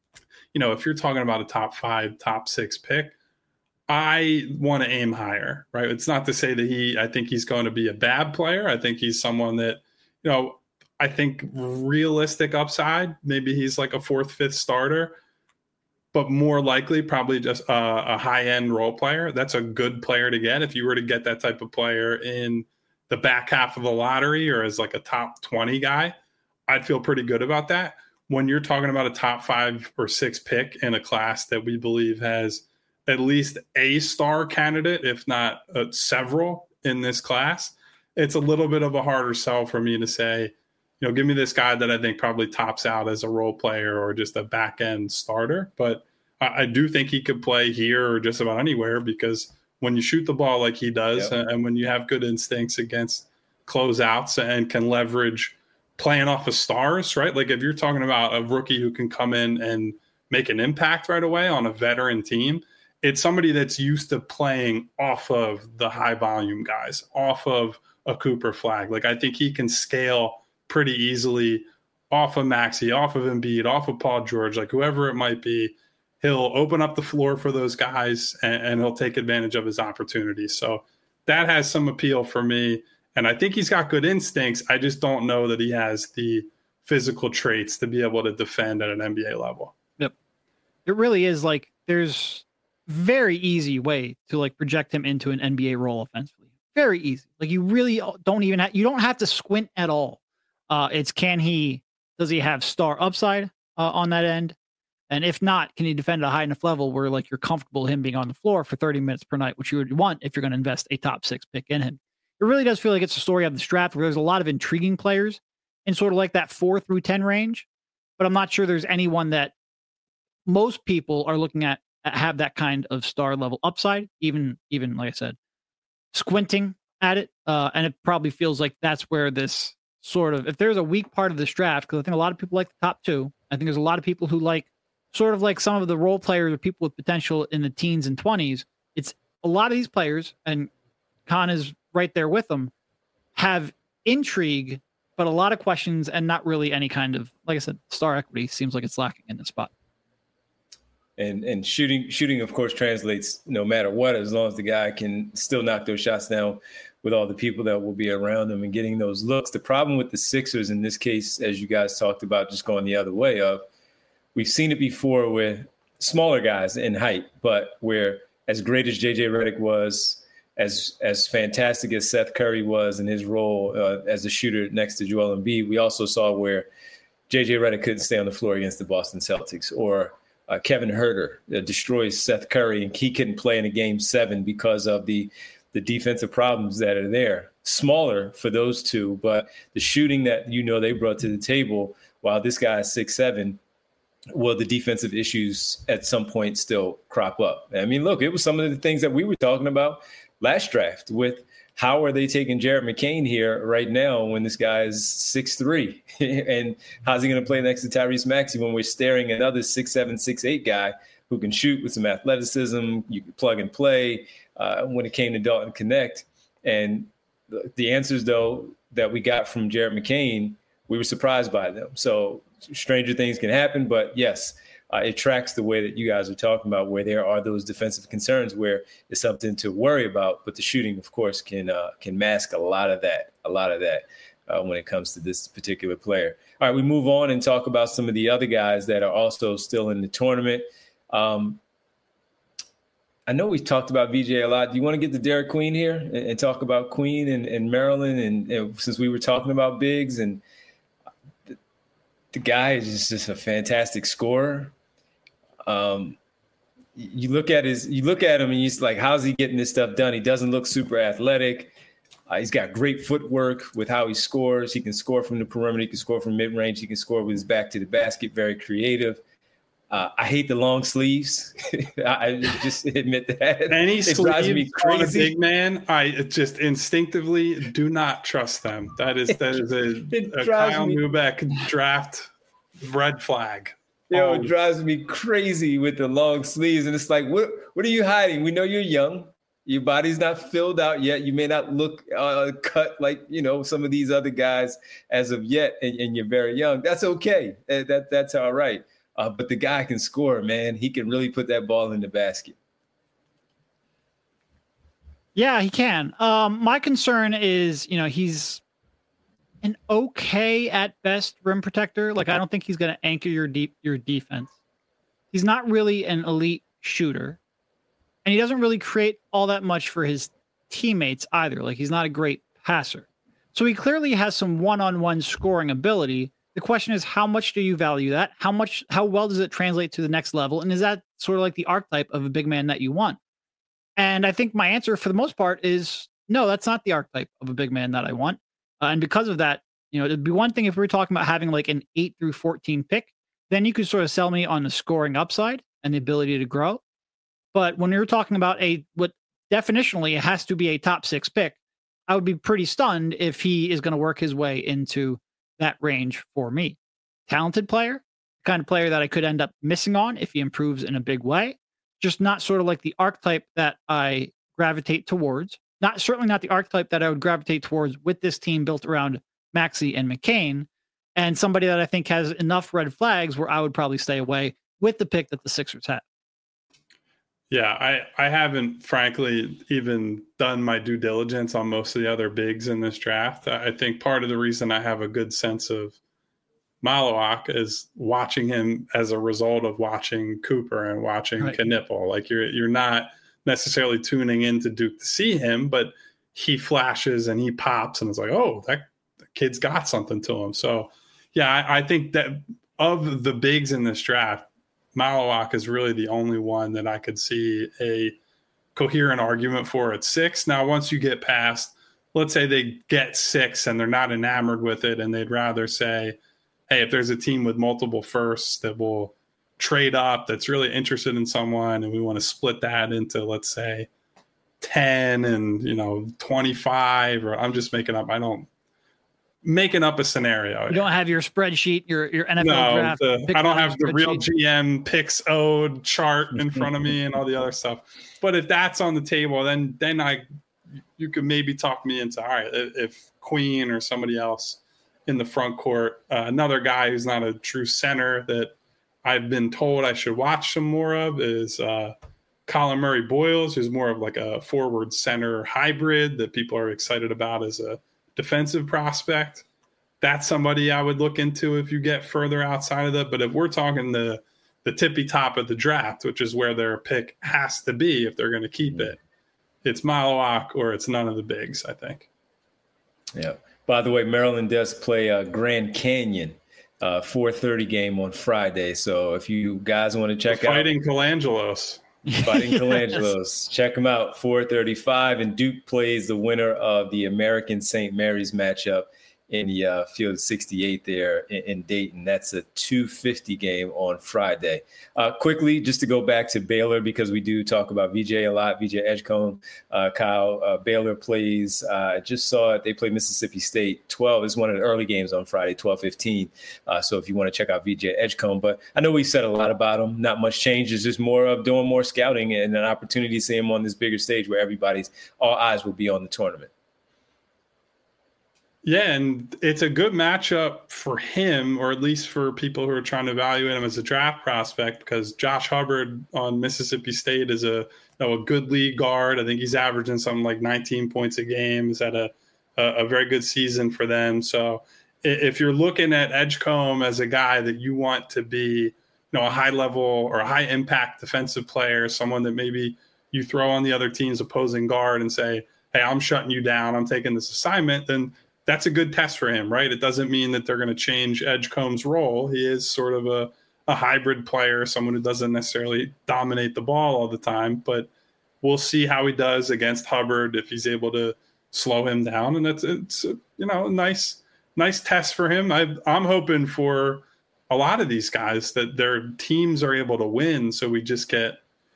if you're talking about a top 5, top 6 pick, I want to aim higher, right? It's not to say that I think he's going to be a bad player. I think he's someone that, I think realistic upside, maybe he's like a 4th, 5th starter, but more likely probably just a high-end role player. That's a good player to get. If you were to get that type of player in the back half of the lottery or as like a top 20 guy, I'd feel pretty good about that. When you're talking about a top 5 or 6 pick in a class that we believe has at least a star candidate, if not several in this class, it's a little bit of a harder sell for me to say, give me this guy that I think probably tops out as a role player or just a back end starter. But I do think he could play here or just about anywhere, because when you shoot the ball like he does, and when you have good instincts against closeouts and can leverage playing off of stars, right? Like if you're talking about a rookie who can come in and make an impact right away on a veteran team, it's somebody that's used to playing off of the high volume guys, off of a Cooper Flagg. Like I think he can scale pretty easily off of Maxey, off of Embiid, off of Paul George, like whoever it might be. He'll open up the floor for those guys and he'll take advantage of his opportunities. So that has some appeal for me. And I think he's got good instincts. I just don't know that he has the physical traits to be able to defend at an NBA level. Yep. It really is like there's very easy way to like project him into an NBA role offensively. Very easy. Like you really don't even you don't have to squint at all. It's does he have star upside on that end? And if not, can he defend at a high enough level where like you're comfortable him being on the floor for 30 minutes per night, which you would want if you're going to invest a top 6 pick in him. It really does feel like it's a story of the draft where there's a lot of intriguing players in sort of like that 4 through 10 range, but I'm not sure there's anyone that most people are looking at have that kind of star level upside, even like I said, squinting at it. And it probably feels like that's where this sort of, if there's a weak part of this draft, because I think a lot of people like the top 2. I think there's a lot of people who like sort of like some of the role players or people with potential in the teens and 20s. It's a lot of these players, and Khan is right there with them, have intrigue, but a lot of questions and not really any kind of, like I said, star equity seems like it's lacking in this spot. And shooting, of course, translates no matter what, as long as the guy can still knock those shots down with all the people that will be around him and getting those looks. The problem with the Sixers in this case, as you guys talked about, just going the other way of, we've seen it before with smaller guys in height, but where as great as JJ Redick was, as fantastic as Seth Curry was in his role as a shooter next to Joel Embiid, we also saw where JJ Redick couldn't stay on the floor against the Boston Celtics, or Kevin Huerter destroys Seth Curry and he couldn't play in a game 7 because of the defensive problems that are there. Smaller for those two, but the shooting that they brought to the table, while this guy is 6'7", will the defensive issues at some point still crop up? I mean, look, it was some of the things that we were talking about last draft with how are they taking Jared McCain here right now when this guy is 6'3", and how's he going to play next to Tyrese Maxey when we're staring at another 6'7", 6'8" guy who can shoot with some athleticism, you can plug and play when it came to Dalton Connect. And the answers, though, that we got from Jared McCain, we were surprised by them. So stranger things can happen, but yes, it tracks the way that you guys are talking about, where there are those defensive concerns where it's something to worry about, but the shooting, of course, can mask a lot of that when it comes to this particular player. All right, we move on and talk about some of the other guys that are also still in the tournament. I know we talked about VJ a lot. Do you want to get to Derek Queen here and talk about Queen and Maryland? And since we were talking about bigs, and the guy is just a fantastic scorer. You look at him and he's like, how's he getting this stuff done? He doesn't look super athletic. He's got great footwork with how he scores. He can score from the perimeter. He can score from mid-range. He can score with his back to the basket. Very creative. I hate the long sleeves. I just admit that. Any sleeves on a big man, I just instinctively do not trust them. That is a Kyle Neubeck draft red flag. It drives me crazy with the long sleeves. And it's like, what are you hiding? We know you're young. Your body's not filled out yet. You may not look cut like, some of these other guys as of yet, and you're very young. That's okay. That's all right. But the guy can score, man. He can really put that ball in the basket. Yeah, he can. My concern is, he's an okay at best rim protector. Like, I don't think he's going to anchor your defense. He's not really an elite shooter. And he doesn't really create all that much for his teammates either. Like, he's not a great passer. So he clearly has some one-on-one scoring ability. The question is, how much do you value that? How well does it translate to the next level? And is that sort of like the archetype of a big man that you want? And I think my answer for the most part is no, that's not the archetype of a big man that I want. And because of that, it'd be one thing if we were talking about having like an 8 through 14 pick, then you could sort of sell me on the scoring upside and the ability to grow. But when you're talking about what definitionally it has to be a top 6 pick, I would be pretty stunned if he is going to work his way into that range for me. Talented player, the kind of player that I could end up missing on if he improves in a big way. Just not sort of like the archetype that I gravitate towards. Certainly not the archetype that I would gravitate towards with this team built around Maxey and McCain, and somebody that I think has enough red flags where I would probably stay away with the pick that the Sixers had. Yeah, I haven't, frankly, even done my due diligence on most of the other bigs in this draft. I think part of the reason I have a good sense of Malawak is watching him as a result of watching Cooper and watching Knipple. Like, you're not necessarily tuning into Duke to see him, but he flashes and he pops and it's like, oh, that kid's got something to him. So, yeah, I think that of the bigs in this draft, Malawak is really the only one that I could see a coherent argument for at 6. Now, once you get past, let's say they get 6 and they're not enamored with it and they'd rather say, hey, if there's a team with multiple firsts that will trade up that's really interested in someone and we want to split that into, let's say, 10 and 25, or I'm just making up a scenario. You don't have your spreadsheet, your NFL draft. I don't have the real GM picks owed chart in front of me and all the other stuff. But if that's on the table, then you could maybe talk me into, all right, if Queen or somebody else in the front court, another guy who's not a true center that I've been told I should watch some more of is Colin Murray Boyles, who's more of like a forward center hybrid that people are excited about as a defensive prospect. That's somebody I would look into if you get further outside of that. But if we're talking the tippy top of the draft, which is where their pick has to be if they're going to keep it, it's Malawak or it's none of the bigs, I think. Yeah. By the way, Maryland does play Grand Canyon 4:30 game on Friday. So if you guys want to check out Fighting Colangelos. Check them out, 4:35. And Duke plays the winner of the American St. Mary's matchup in the Field 68 there in Dayton. That's a 2:50 game on Friday. Quickly, just to go back to Baylor, because we do talk about VJ a lot, VJ Edgecombe, Kyle. Baylor plays, I just saw it, they play Mississippi State 12. It's one of the early games on Friday, 12:15. So if you want to check out VJ Edgecombe. But I know we said a lot about him. Not much change. It's just more of doing more scouting and an opportunity to see him on this bigger stage where all eyes will be on the tournament. Yeah, and it's a good matchup for him, or at least for people who are trying to evaluate him as a draft prospect, because Josh Hubbard on Mississippi State is a good league guard. I think he's averaging something like 19 points a game. He's had a very good season for them. So if you're looking at Edgecombe as a guy that you want to be, a high level or a high impact defensive player, someone that maybe you throw on the other team's opposing guard and say, hey, I'm shutting you down, I'm taking this assignment, then that's a good test for him, right? It doesn't mean that they're going to change Edgecombe's role. He is sort of a hybrid player, someone who doesn't necessarily dominate the ball all the time, but we'll see how he does against Hubbard, if he's able to slow him down. And it's a nice test for him. I'm hoping for a lot of these guys that their teams are able to win. So we just get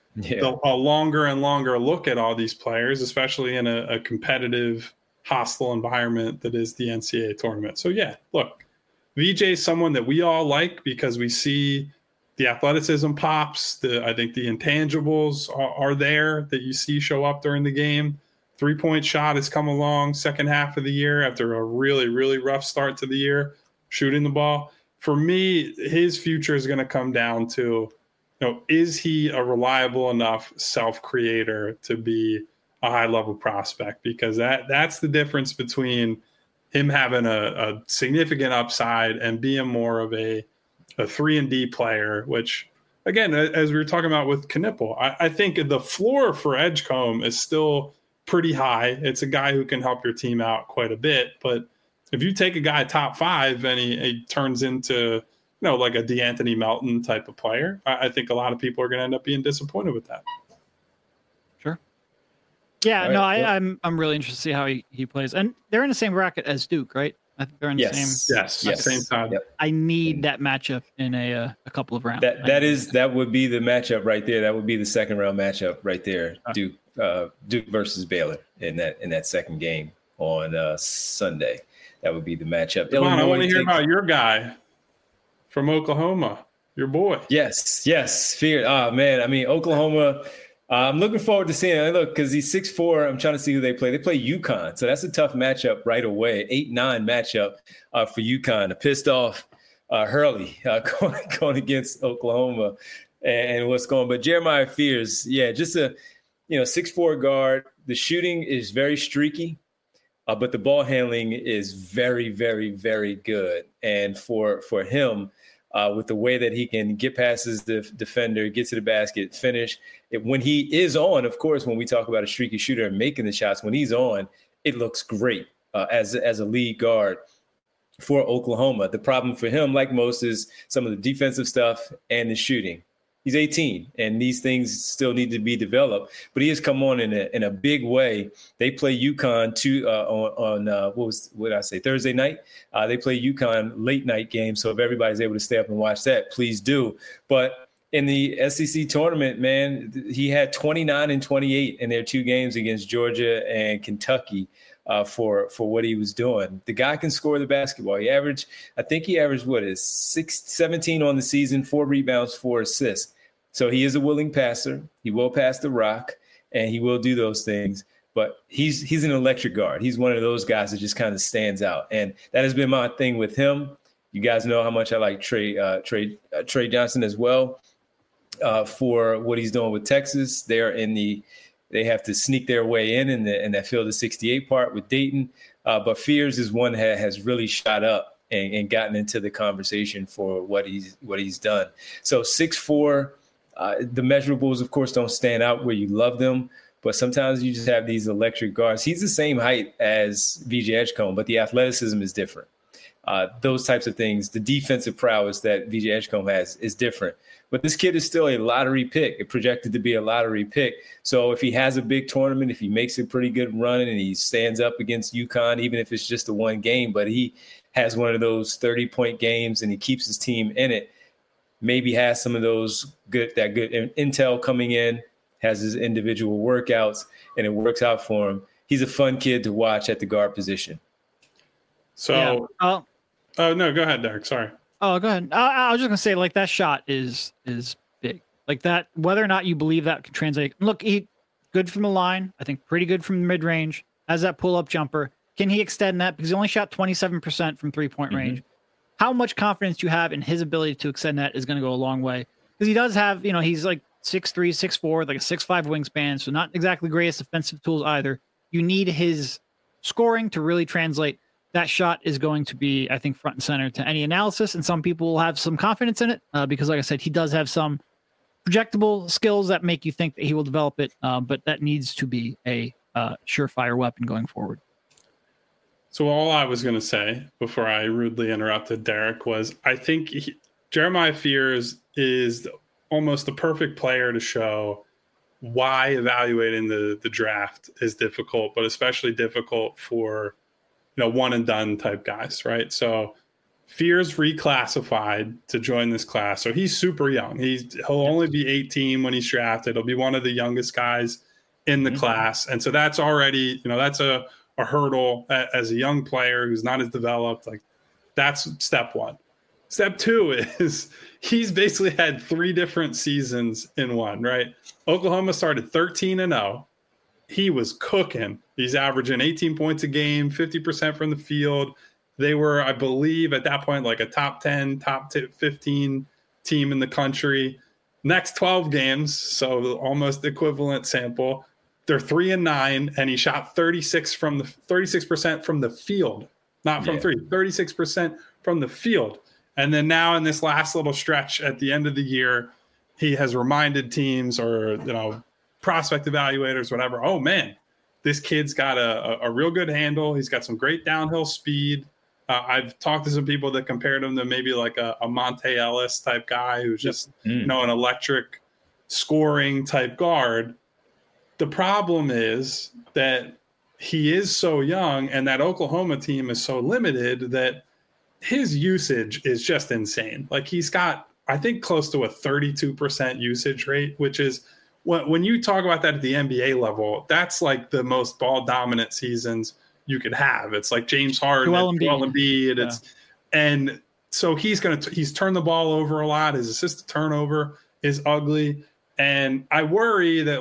a longer and longer look at all these players, especially in a competitive, hostile environment that is the NCAA tournament. So yeah, look, VJ is someone that we all like because we see the athleticism pops. I think the intangibles are there that you see show up during the game. 3-point shot has come along second half of the year after a really, really rough start to the year, shooting the ball. For me, his future is going to come down to, is he a reliable enough self-creator to be a high-level prospect? Because that's the difference between him having a significant upside and being more of a 3-and-D player, which, again, as we were talking about with Knipple, I think the floor for Edgecombe is still pretty high. It's a guy who can help your team out quite a bit. But if you take a guy top 5 and he turns into, like a DeAnthony Melton type of player, I think a lot of people are going to end up being disappointed with that. Sure. Yeah, right. I'm really interested to see how he plays. And they're in the same bracket as Duke, right? I think they're in the same. Yes. Same time. Yep. I need that matchup in a couple of rounds. That would be the matchup right there. That would be the second round matchup right there. Duke versus Baylor in that second game on Sunday. That would be the matchup. Come on, I want to hear about your guy from Oklahoma, your boy. Yes. Fear. Oh, man. I mean, Oklahoma, I'm looking forward to seeing it. Look, because he's 6'4", I'm trying to see who they play. They play UConn, so that's a tough matchup right away. 8-9 matchup for UConn. A pissed off Hurley going against Oklahoma and what's going on. But Jeremiah Fears, just a 6'4" guard. The shooting is very streaky. But the ball handling is very, very, very good. And for him, with the way that he can get past his defender, get to the basket, finish. When he is on, of course, when we talk about a streaky shooter and making the shots, when he's on, it looks great as a lead guard for Oklahoma. The problem for him, like most, is some of the defensive stuff and the shooting. He's 18, and these things still need to be developed. But he has come on in a big way. They play UConn on Thursday night. They play UConn late night game. So if everybody's able to stay up and watch that, please do. But in the SEC tournament, man, he had 29 and 28 in their 2 games against Georgia and Kentucky. For what he was doing. The guy can score the basketball. He averaged 17 on the season, 4 rebounds, 4 assists. So he is a willing passer. He will pass the rock, and he will do those things. But he's an electric guard. He's one of those guys that just kind of stands out. And that has been my thing with him. You guys know how much I like Trey Johnson as well for what he's doing with Texas. They have to sneak their way in that field of 68 part with Dayton. But Fears is one that has really shot up and gotten into the conversation for what he's done. So 6'4", the measurables, of course, don't stand out where you love them. But sometimes you just have these electric guards. He's the same height as VJ Edgecombe, but the athleticism is different. Those types of things, the defensive prowess that VJ Edgecombe has is different. But this kid is still a lottery pick, projected to be a lottery pick. So if he has a big tournament, if he makes a pretty good run and he stands up against UConn, even if it's just a one game, but he has one of those 30-point games and he keeps his team in it, maybe has some of those good intel coming in, has his individual workouts, and it works out for him. He's a fun kid to watch at the guard position. So, oh no, go ahead, Derek. Sorry. Oh, go ahead. I was just gonna say, like, that shot is big. Like that, whether or not you believe that can translate. Look, he good from the line. I think pretty good from the mid range. Has that pull up jumper. Can he extend that? Because he only shot 27% from 3-point range. How much confidence you have in his ability to extend that is going to go a long way. Because he does have, he's like 6'3", 6'4", like a 6'5" wingspan, so not exactly greatest defensive tools either. You need his scoring to really translate. That shot is going to be, I think, front and center to any analysis, and some people will have some confidence in it because, like I said, he does have some projectable skills that make you think that he will develop it, but that needs to be a surefire weapon going forward. So all I was going to say before I rudely interrupted Derek was I think Jeremiah Fears is almost the perfect player to show why evaluating the draft is difficult, but especially difficult for one and done type guys, right? So Fears reclassified to join this class. So he's super young. He'll only be 18 when he's drafted. He'll be one of the youngest guys in the class. And so that's already, that's a hurdle as a young player who's not as developed. Like, that's step one. Step two is he's basically had 3 different seasons in one, right? Oklahoma started 13-0. He was cooking. He's averaging 18 points a game, 50% from the field. They were, I believe, at that point, like a top 10, top 15 team in the country. Next 12 games, so almost equivalent sample, they're 3-9, and he shot 36% from the field, not from three, 36% from the field. And then now in this last little stretch at the end of the year, he has reminded teams or prospect evaluators, whatever, oh man, this kid's got a real good handle. He's got some great downhill speed. I've talked to some people that compared him to maybe like a Monte Ellis type guy who's just an electric scoring type guard. The problem is that he is so young and that Oklahoma team is so limited that his usage is just insane. Like, he's got, I think, close to a 32% usage rate, which is when you talk about that at the NBA level, that's like the most ball dominant seasons you could have. It's like James Harden, Joel Embiid. And so he's turned the ball over a lot. His assist to turnover is ugly. And I worry that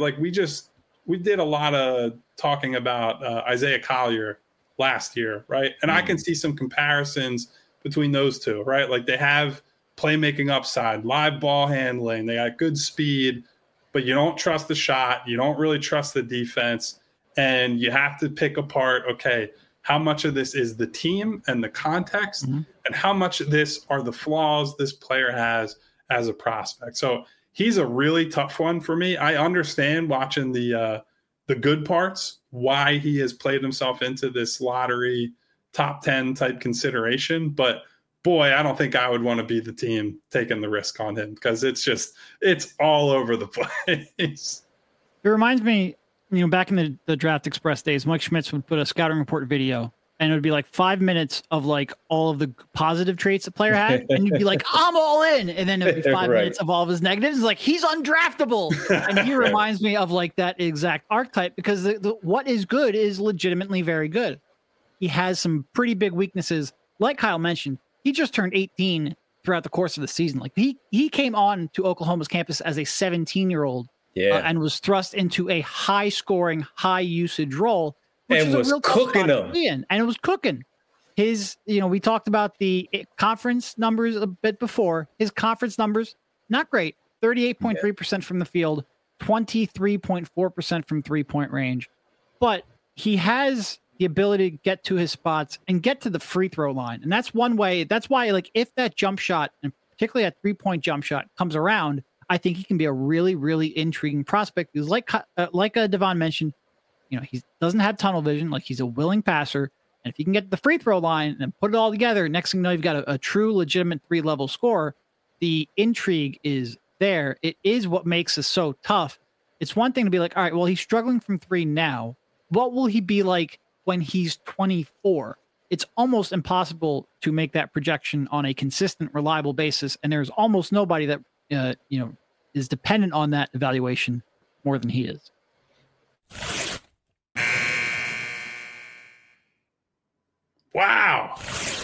we did a lot of talking about Isaiah Collier last year, right? And I can see some comparisons between those two, right? Like, they have playmaking upside, live ball handling, they got good speed, but you don't trust the shot. You don't really trust the defense. And you have to pick apart, okay, how much of this is the team and the context, and how much of this are the flaws this player has as a prospect. So he's a really tough one for me. I understand watching the good parts, why he has played himself into this lottery top 10 type consideration. But boy, I don't think I would want to be the team taking the risk on him because it's all over the place. It reminds me, back in the Draft Express days, Mike Schmitz would put a scouting report video and it would be like 5 minutes of like all of the positive traits the player had. And you'd be like, I'm all in. And then it would be 5 minutes of all of his negatives. It's like, he's undraftable. And he reminds me of like that exact archetype because the what is good is legitimately very good. He has some pretty big weaknesses. Like Kyle mentioned, he just turned 18 throughout the course of the season. Like he came on to Oklahoma's campus as a 17-year-old and was thrust into a high-scoring, high-usage role, which and was cooking them. And it was cooking. His, we talked about the conference numbers a bit before. His conference numbers, not great. 38.3% from the field, 23.4% from three-point range. But he has the ability to get to his spots and get to the free throw line. And that's one way. That's why, like, if that jump shot, and particularly that three-point jump shot, comes around, I think he can be a really, really intriguing prospect. Because like Devon mentioned, he doesn't have tunnel vision. Like, he's a willing passer. And if you can get the free throw line and put it all together, next thing you know, you've got a true, legitimate 3-level scorer. The intrigue is there. It is what makes us so tough. It's one thing to be like, all right, well, he's struggling from 3 now. What will he be like when he's 24? It's almost impossible to make that projection on a consistent, reliable basis. And there's almost nobody that, is dependent on that evaluation more than he is. Wow.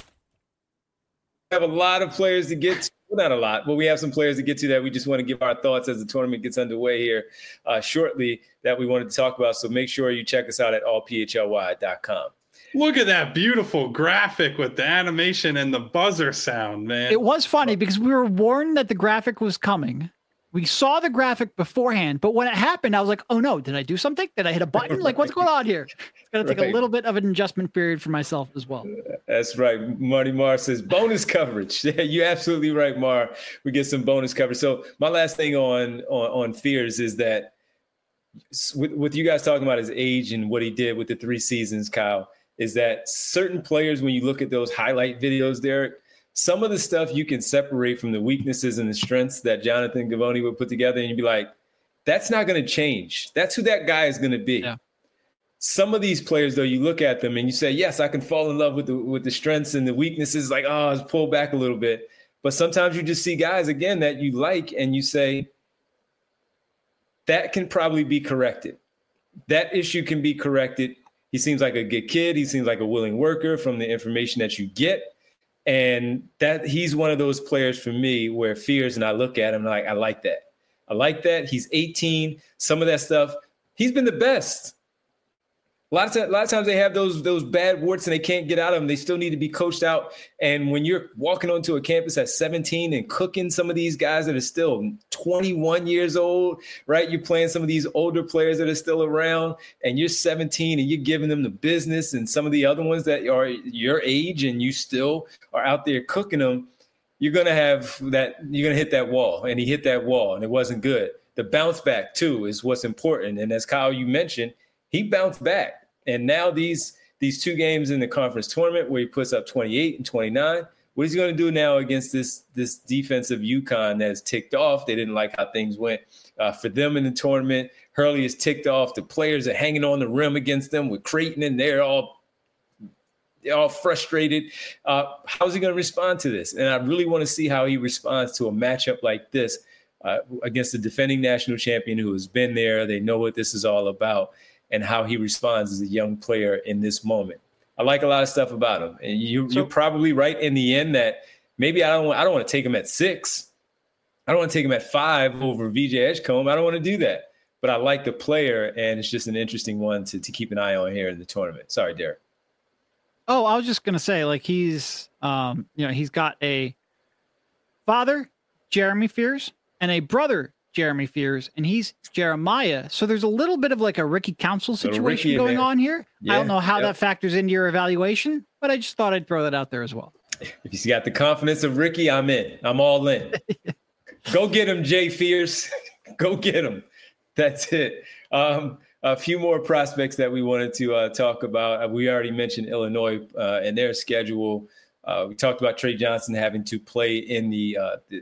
We have a lot of players to get to. Well, not a lot, but we have some players to get to that we just want to give our thoughts as the tournament gets underway here shortly that we wanted to talk about. So make sure you check us out at allphly.com. Look at that beautiful graphic with the animation and the buzzer sound, man. It was funny because we were warned that the graphic was coming. We saw the graphic beforehand, but when it happened, I was like, oh no, did I do something? Did I hit a button? Like, what's going on here? It's going to take a little bit of an adjustment period for myself as well. That's right. Marty Marr says bonus coverage. Yeah, you're absolutely right, Marr. We get some bonus coverage. So my last thing on Fears is that with you guys talking about his age and what he did with the 3 seasons, Kyle, is that certain players, when you look at those highlight videos, Derek, some of the stuff you can separate from the weaknesses and the strengths that Jonathan Givony would put together, and you'd be like, that's not going to change. That's who that guy is going to be. Yeah. Some of these players, though, you look at them and you say, yes, I can fall in love with the strengths and the weaknesses, like, oh, let's pull back a little bit. But sometimes you just see guys, again, that you like, and you say, that can probably be corrected. That issue can be corrected. He seems like a good kid. He seems like a willing worker from the information that you get. And that he's one of those players for me where Fears, and I look at him like, I like that. I like that. He's 18. Some of that stuff, he's been the best. A lot of times they have those bad warts and they can't get out of them. They still need to be coached out. And when you're walking onto a campus at 17 and cooking some of these guys that are still 21 years old, right? You're playing some of these older players that are still around, and you're 17 and you're giving them the business, and some of the other ones that are your age and you still are out there cooking them, you're going to hit that wall. And he hit that wall and it wasn't good. The bounce back too is what's important. And as Kyle, you mentioned, he bounced back. And now these 2 games in the conference tournament where he puts up 28 and 29, what is he going to do now against this defensive UConn that is ticked off? They didn't like how things went for them in the tournament. Hurley is ticked off. The players are hanging on the rim against them with Creighton, and they're all frustrated. How's he going to respond to this? And I really want to see how he responds to a matchup like this against the defending national champion who has been there. They know what this is all about, and how he responds as a young player in this moment. I like a lot of stuff about him. And you're probably right in the end that maybe I don't want to take him at 6. I don't want to take him at 5 over VJ Edgecombe. I don't want to do that. But I like the player, and it's just an interesting one to keep an eye on here in the tournament. Sorry, Derek. Oh, I was just going to say, like, he's got a father, Jeremy Fears, and a brother, Jeremy Fears, and he's Jeremiah. So there's a little bit of like a Ricky Council situation going on here. Yeah, I don't know how that factors into your evaluation, but I just thought I'd throw that out there as well. If he's got the confidence of Ricky, I'm in. I'm all in. Go get him, Jay Fears. Go get him. That's it. A few more prospects that we wanted to talk about. We already mentioned Illinois and their schedule. We talked about Trey Johnson having to play in the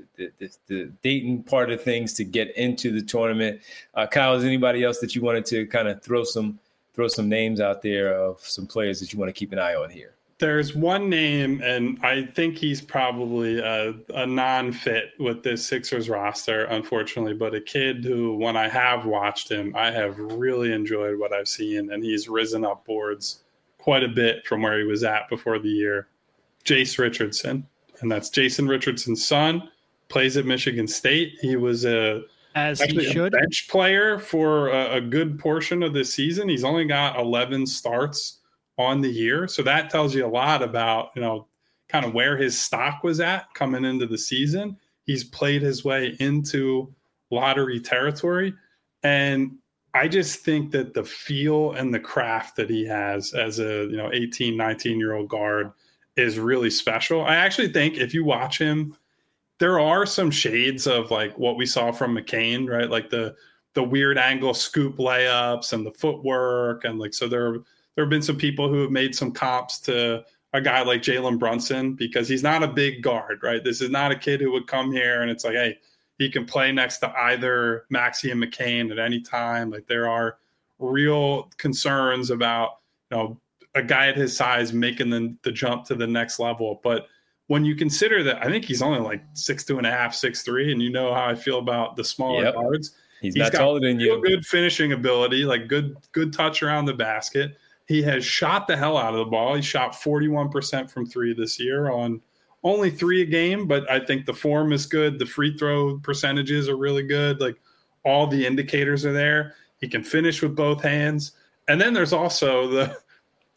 Dayton part of things to get into the tournament. Kyle, is anybody else that you wanted to kind of throw some names out there of some players that you want to keep an eye on here? There's one name, and I think he's probably a non-fit with this Sixers roster, unfortunately, but a kid who, when I have watched him, I have really enjoyed what I've seen, and he's risen up boards quite a bit from where he was at before the year. Jace Richardson, and that's Jason Richardson's son, plays at Michigan State. He was a bench player for a good portion of this season. He's only got 11 starts on the year, so that tells you a lot about, kind of where his stock was at coming into the season. He's played his way into lottery territory, and I just think that the feel and the craft that he has as a 18, 19-year-old guard is really special. I actually think if you watch him, there are some shades of like what we saw from McCain, right? Like the weird angle scoop layups and the footwork. And like, so there have been some people who have made some comps to a guy like Jalen Brunson because he's not a big guard, right? This is not a kid who would come here and it's like, hey, he can play next to either Maxey and McCain at any time. Like there are real concerns about, a guy at his size making the jump to the next level. But when you consider that, I think he's only like 6'2.5", 6'3", and you know how I feel about the smaller guards. He's not taller than you. Good finishing ability, like good touch around the basket. He has shot the hell out of the ball. He shot 41% from 3 this year on only 3 a game, but I think the form is good. The free throw percentages are really good. Like all the indicators are there. He can finish with both hands. And then there's also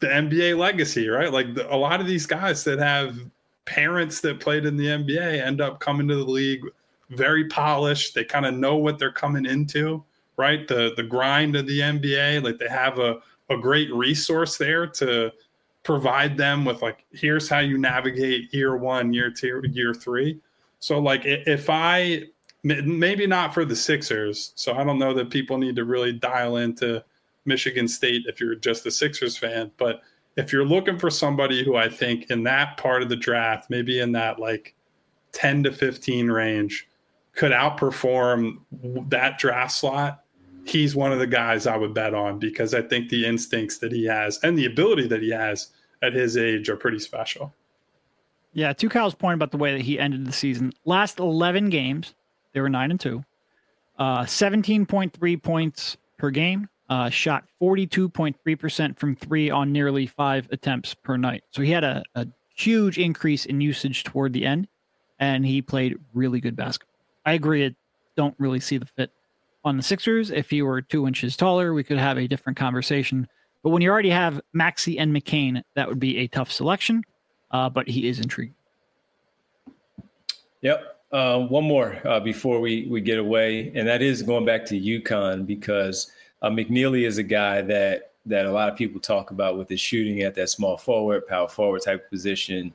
the NBA legacy, right? Like a lot of these guys that have parents that played in the NBA end up coming to the league very polished. They kind of know what they're coming into, right? The grind of the NBA, like they have a great resource there to provide them with like, here's how you navigate year 1, year 2, year 3. So like if I, maybe not for the Sixers, so I don't know that people need to really dial into Michigan State if you're just a Sixers fan, but if you're looking for somebody who I think in that part of the draft, maybe in that like 10 to 15 range, could outperform that draft slot, he's one of the guys I would bet on, because I think the instincts that he has and the ability that he has at his age are pretty special. Yeah, to Kyle's point about the way that he ended the season, last 11 games, they were 9-2, 17.3 points per game, shot 42.3% from 3 on nearly 5 attempts per night. So he had a huge increase in usage toward the end, and he played really good basketball. I agree. I don't really see the fit on the Sixers. If he were 2 inches taller, we could have a different conversation. But when you already have Maxey and McCain, that would be a tough selection. But he is intriguing. Yep. One more before we get away, and that is going back to UConn, because McNeely is a guy that a lot of people talk about with his shooting at that small forward, power forward type of position.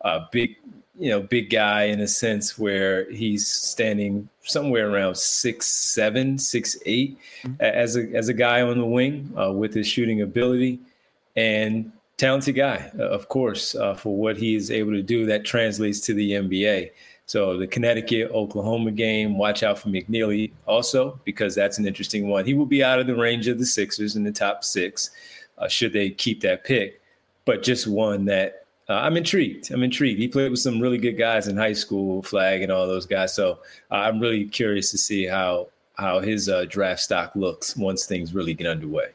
Big guy in a sense where he's standing somewhere around 6'7", 6'8", as a guy on the wing with his shooting ability, and talented guy, of course, for what he is able to do. That translates to the NBA. So the Connecticut-Oklahoma game, watch out for McNeely also, because that's an interesting one. He will be out of the range of the Sixers in the top 6, should they keep that pick. But just one that I'm intrigued. He played with some really good guys in high school, Flag and all those guys. So I'm really curious to see how his draft stock looks once things really get underway.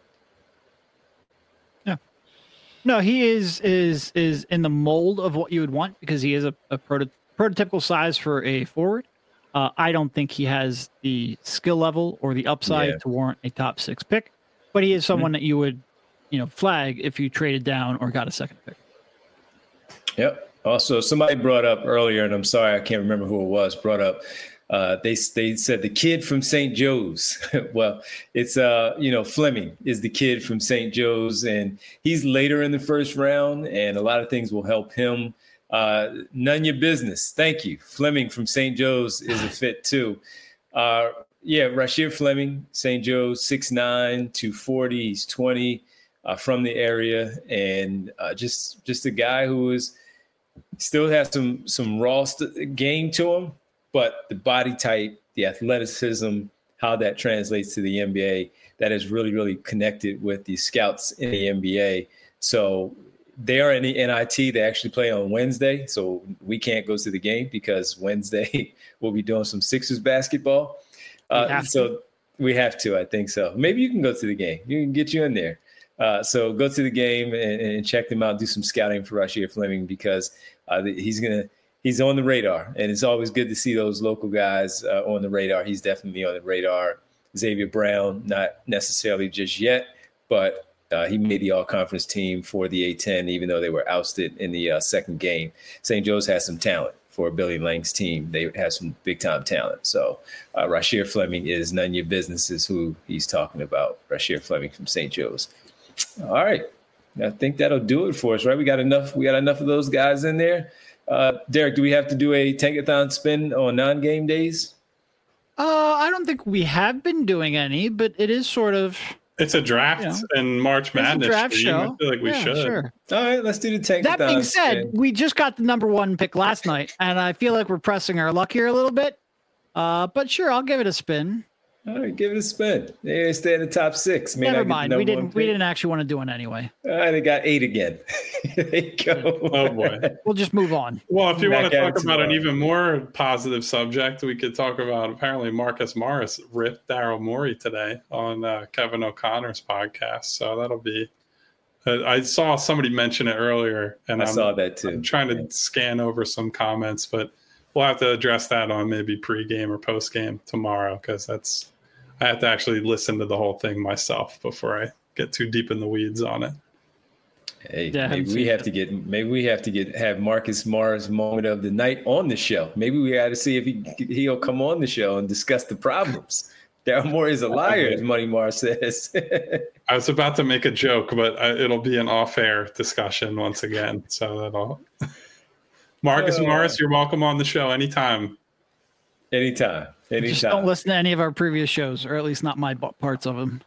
Yeah. No, he is in the mold of what you would want, because he is a prototypical size for a forward. I don't think he has the skill level or the upside to warrant a top 6 pick, but he is someone that you would, flag if you traded down or got a second pick. Yep. Also, somebody brought up earlier, and I'm sorry, I can't remember who it was, brought up, they said the kid from St. Joe's. Well, it's, Fleming is the kid from St. Joe's, and he's later in the first round, and a lot of things will help him. None your business. Thank you. Fleming from St. Joe's is a fit too. Rasheer Fleming, St. Joe's, 6'9", 240, he's 20, from the area, and just a guy who still has some raw game to him, but the body type, the athleticism, how that translates to the NBA, that is really, really connected with the scouts in the NBA. So they are in the NIT. They actually play on Wednesday, so we can't go to the game because Wednesday we'll be doing some Sixers basketball. So we have to, I think so. Maybe you can go to the game. You can get you in there. So go to the game and check them out. Do some scouting for Rasheer Fleming, because he's on the radar, and it's always good to see those local guys on the radar. He's definitely on the radar. Xavier Brown, not necessarily just yet, but he made the all-conference team for the A-10, even though they were ousted in the second game. St. Joe's has some talent for Billy Lang's team. They have some big-time talent. So Rasheer Fleming is none of your business is who he's talking about, Rasheer Fleming from St. Joe's. All right. I think that'll do it for us, right? We got enough of those guys in there. Derek, do we have to do a tankathon spin on non-game days? I don't think we have been doing any, but it is sort of... It's a draft and March Madness draft stream. show. I feel like we should. Sure. All right, let's do the tankathon. That being said, spin. we just got the number 1 pick last night, and I feel like we're pressing our luck here a little bit. But sure, I'll give it a spin. All right, give it a spin. They stay in the top 6. Never mind. We didn't actually want to do it anyway. All right, they got 8 again. There you go. Oh boy. We'll just move on. Well, if you want to talk about an even more positive subject, we could talk about apparently Marcus Morris ripped Daryl Morey today on Kevin O'Connor's podcast. So that'll be. I saw somebody mention it earlier, and I saw that too. I'm trying to scan over some comments, but we'll have to address that on maybe pregame or postgame tomorrow, because I have to actually listen to the whole thing myself before I get too deep in the weeds on it. Hey, maybe we have to have Marcus Morris moment of the night on the show. Maybe we got to see if he'll come on the show and discuss the problems. Daryl Morey is a liar, as Money Mar says. I was about to make a joke, but it'll be an off-air discussion once again. So that'll. Marcus Morris, you're welcome on the show anytime. Anytime. Just don't listen to any of our previous shows, or at least not my parts of them.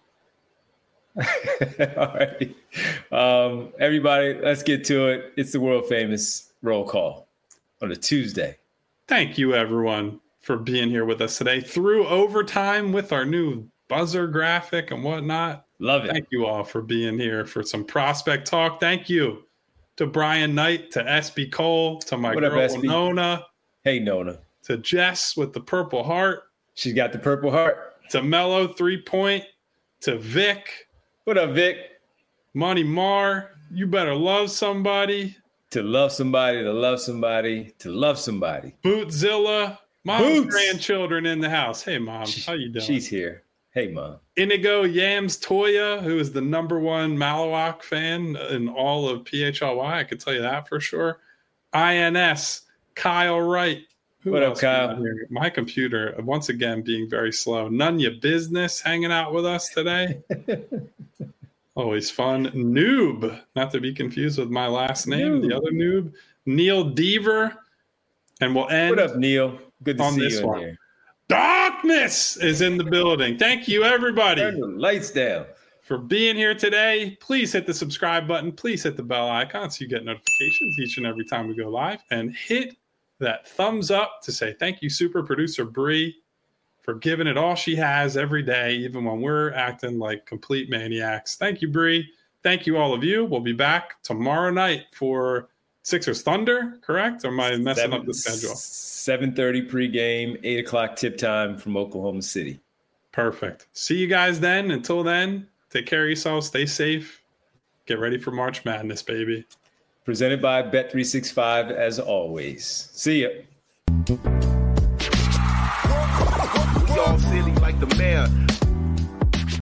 All right. Everybody, let's get to it. It's the world famous roll call on a Tuesday. Thank you, everyone, for being here with us today through overtime with our new buzzer graphic and whatnot. Love it. Thank you all for being here for some prospect talk. Thank you to Brian Knight, to SB Cole, to my girl Nona. Hey, Nona. To Jess with the Purple Heart. She's got the Purple Heart. To Mello 3-point. To Vic. What up, Vic? Money Mar, you better love somebody. To love somebody, to love somebody, to love somebody. Bootzilla, mom's grandchildren in the house. Hey, Mom, how you doing? She's here. Hey, Mom. Inigo Yams Toya, who is the #1 Malawak fan in all of PHLY. I could tell you that for sure. INS, Kyle Wright. What up, Kyle? My computer, once again, being very slow. None ya business hanging out with us today. Always fun. Noob, not to be confused with my last name, the other noob. Neil Deaver. And we'll end. What up, Neil? Good to see you in here. Darkness is in the building. Thank you, everybody. Turn the lights down. For being here today. Please hit the subscribe button. Please hit the bell icon so you get notifications each and every time we go live. And hit that thumbs up to say thank you, super producer Bree, for giving it all she has every day, even when we're acting like complete maniacs. Thank you, Bree. Thank you, all of you. We'll be back tomorrow night for Sixers Thunder, correct? Or am I messing up the schedule? 7:30 pregame, 8 o'clock tip time from Oklahoma City. Perfect. See you guys then. Until then, take care of yourselves. Stay safe. Get ready for March Madness, baby. Presented by Bet365, as always. See ya. Y'all silly like the mayor.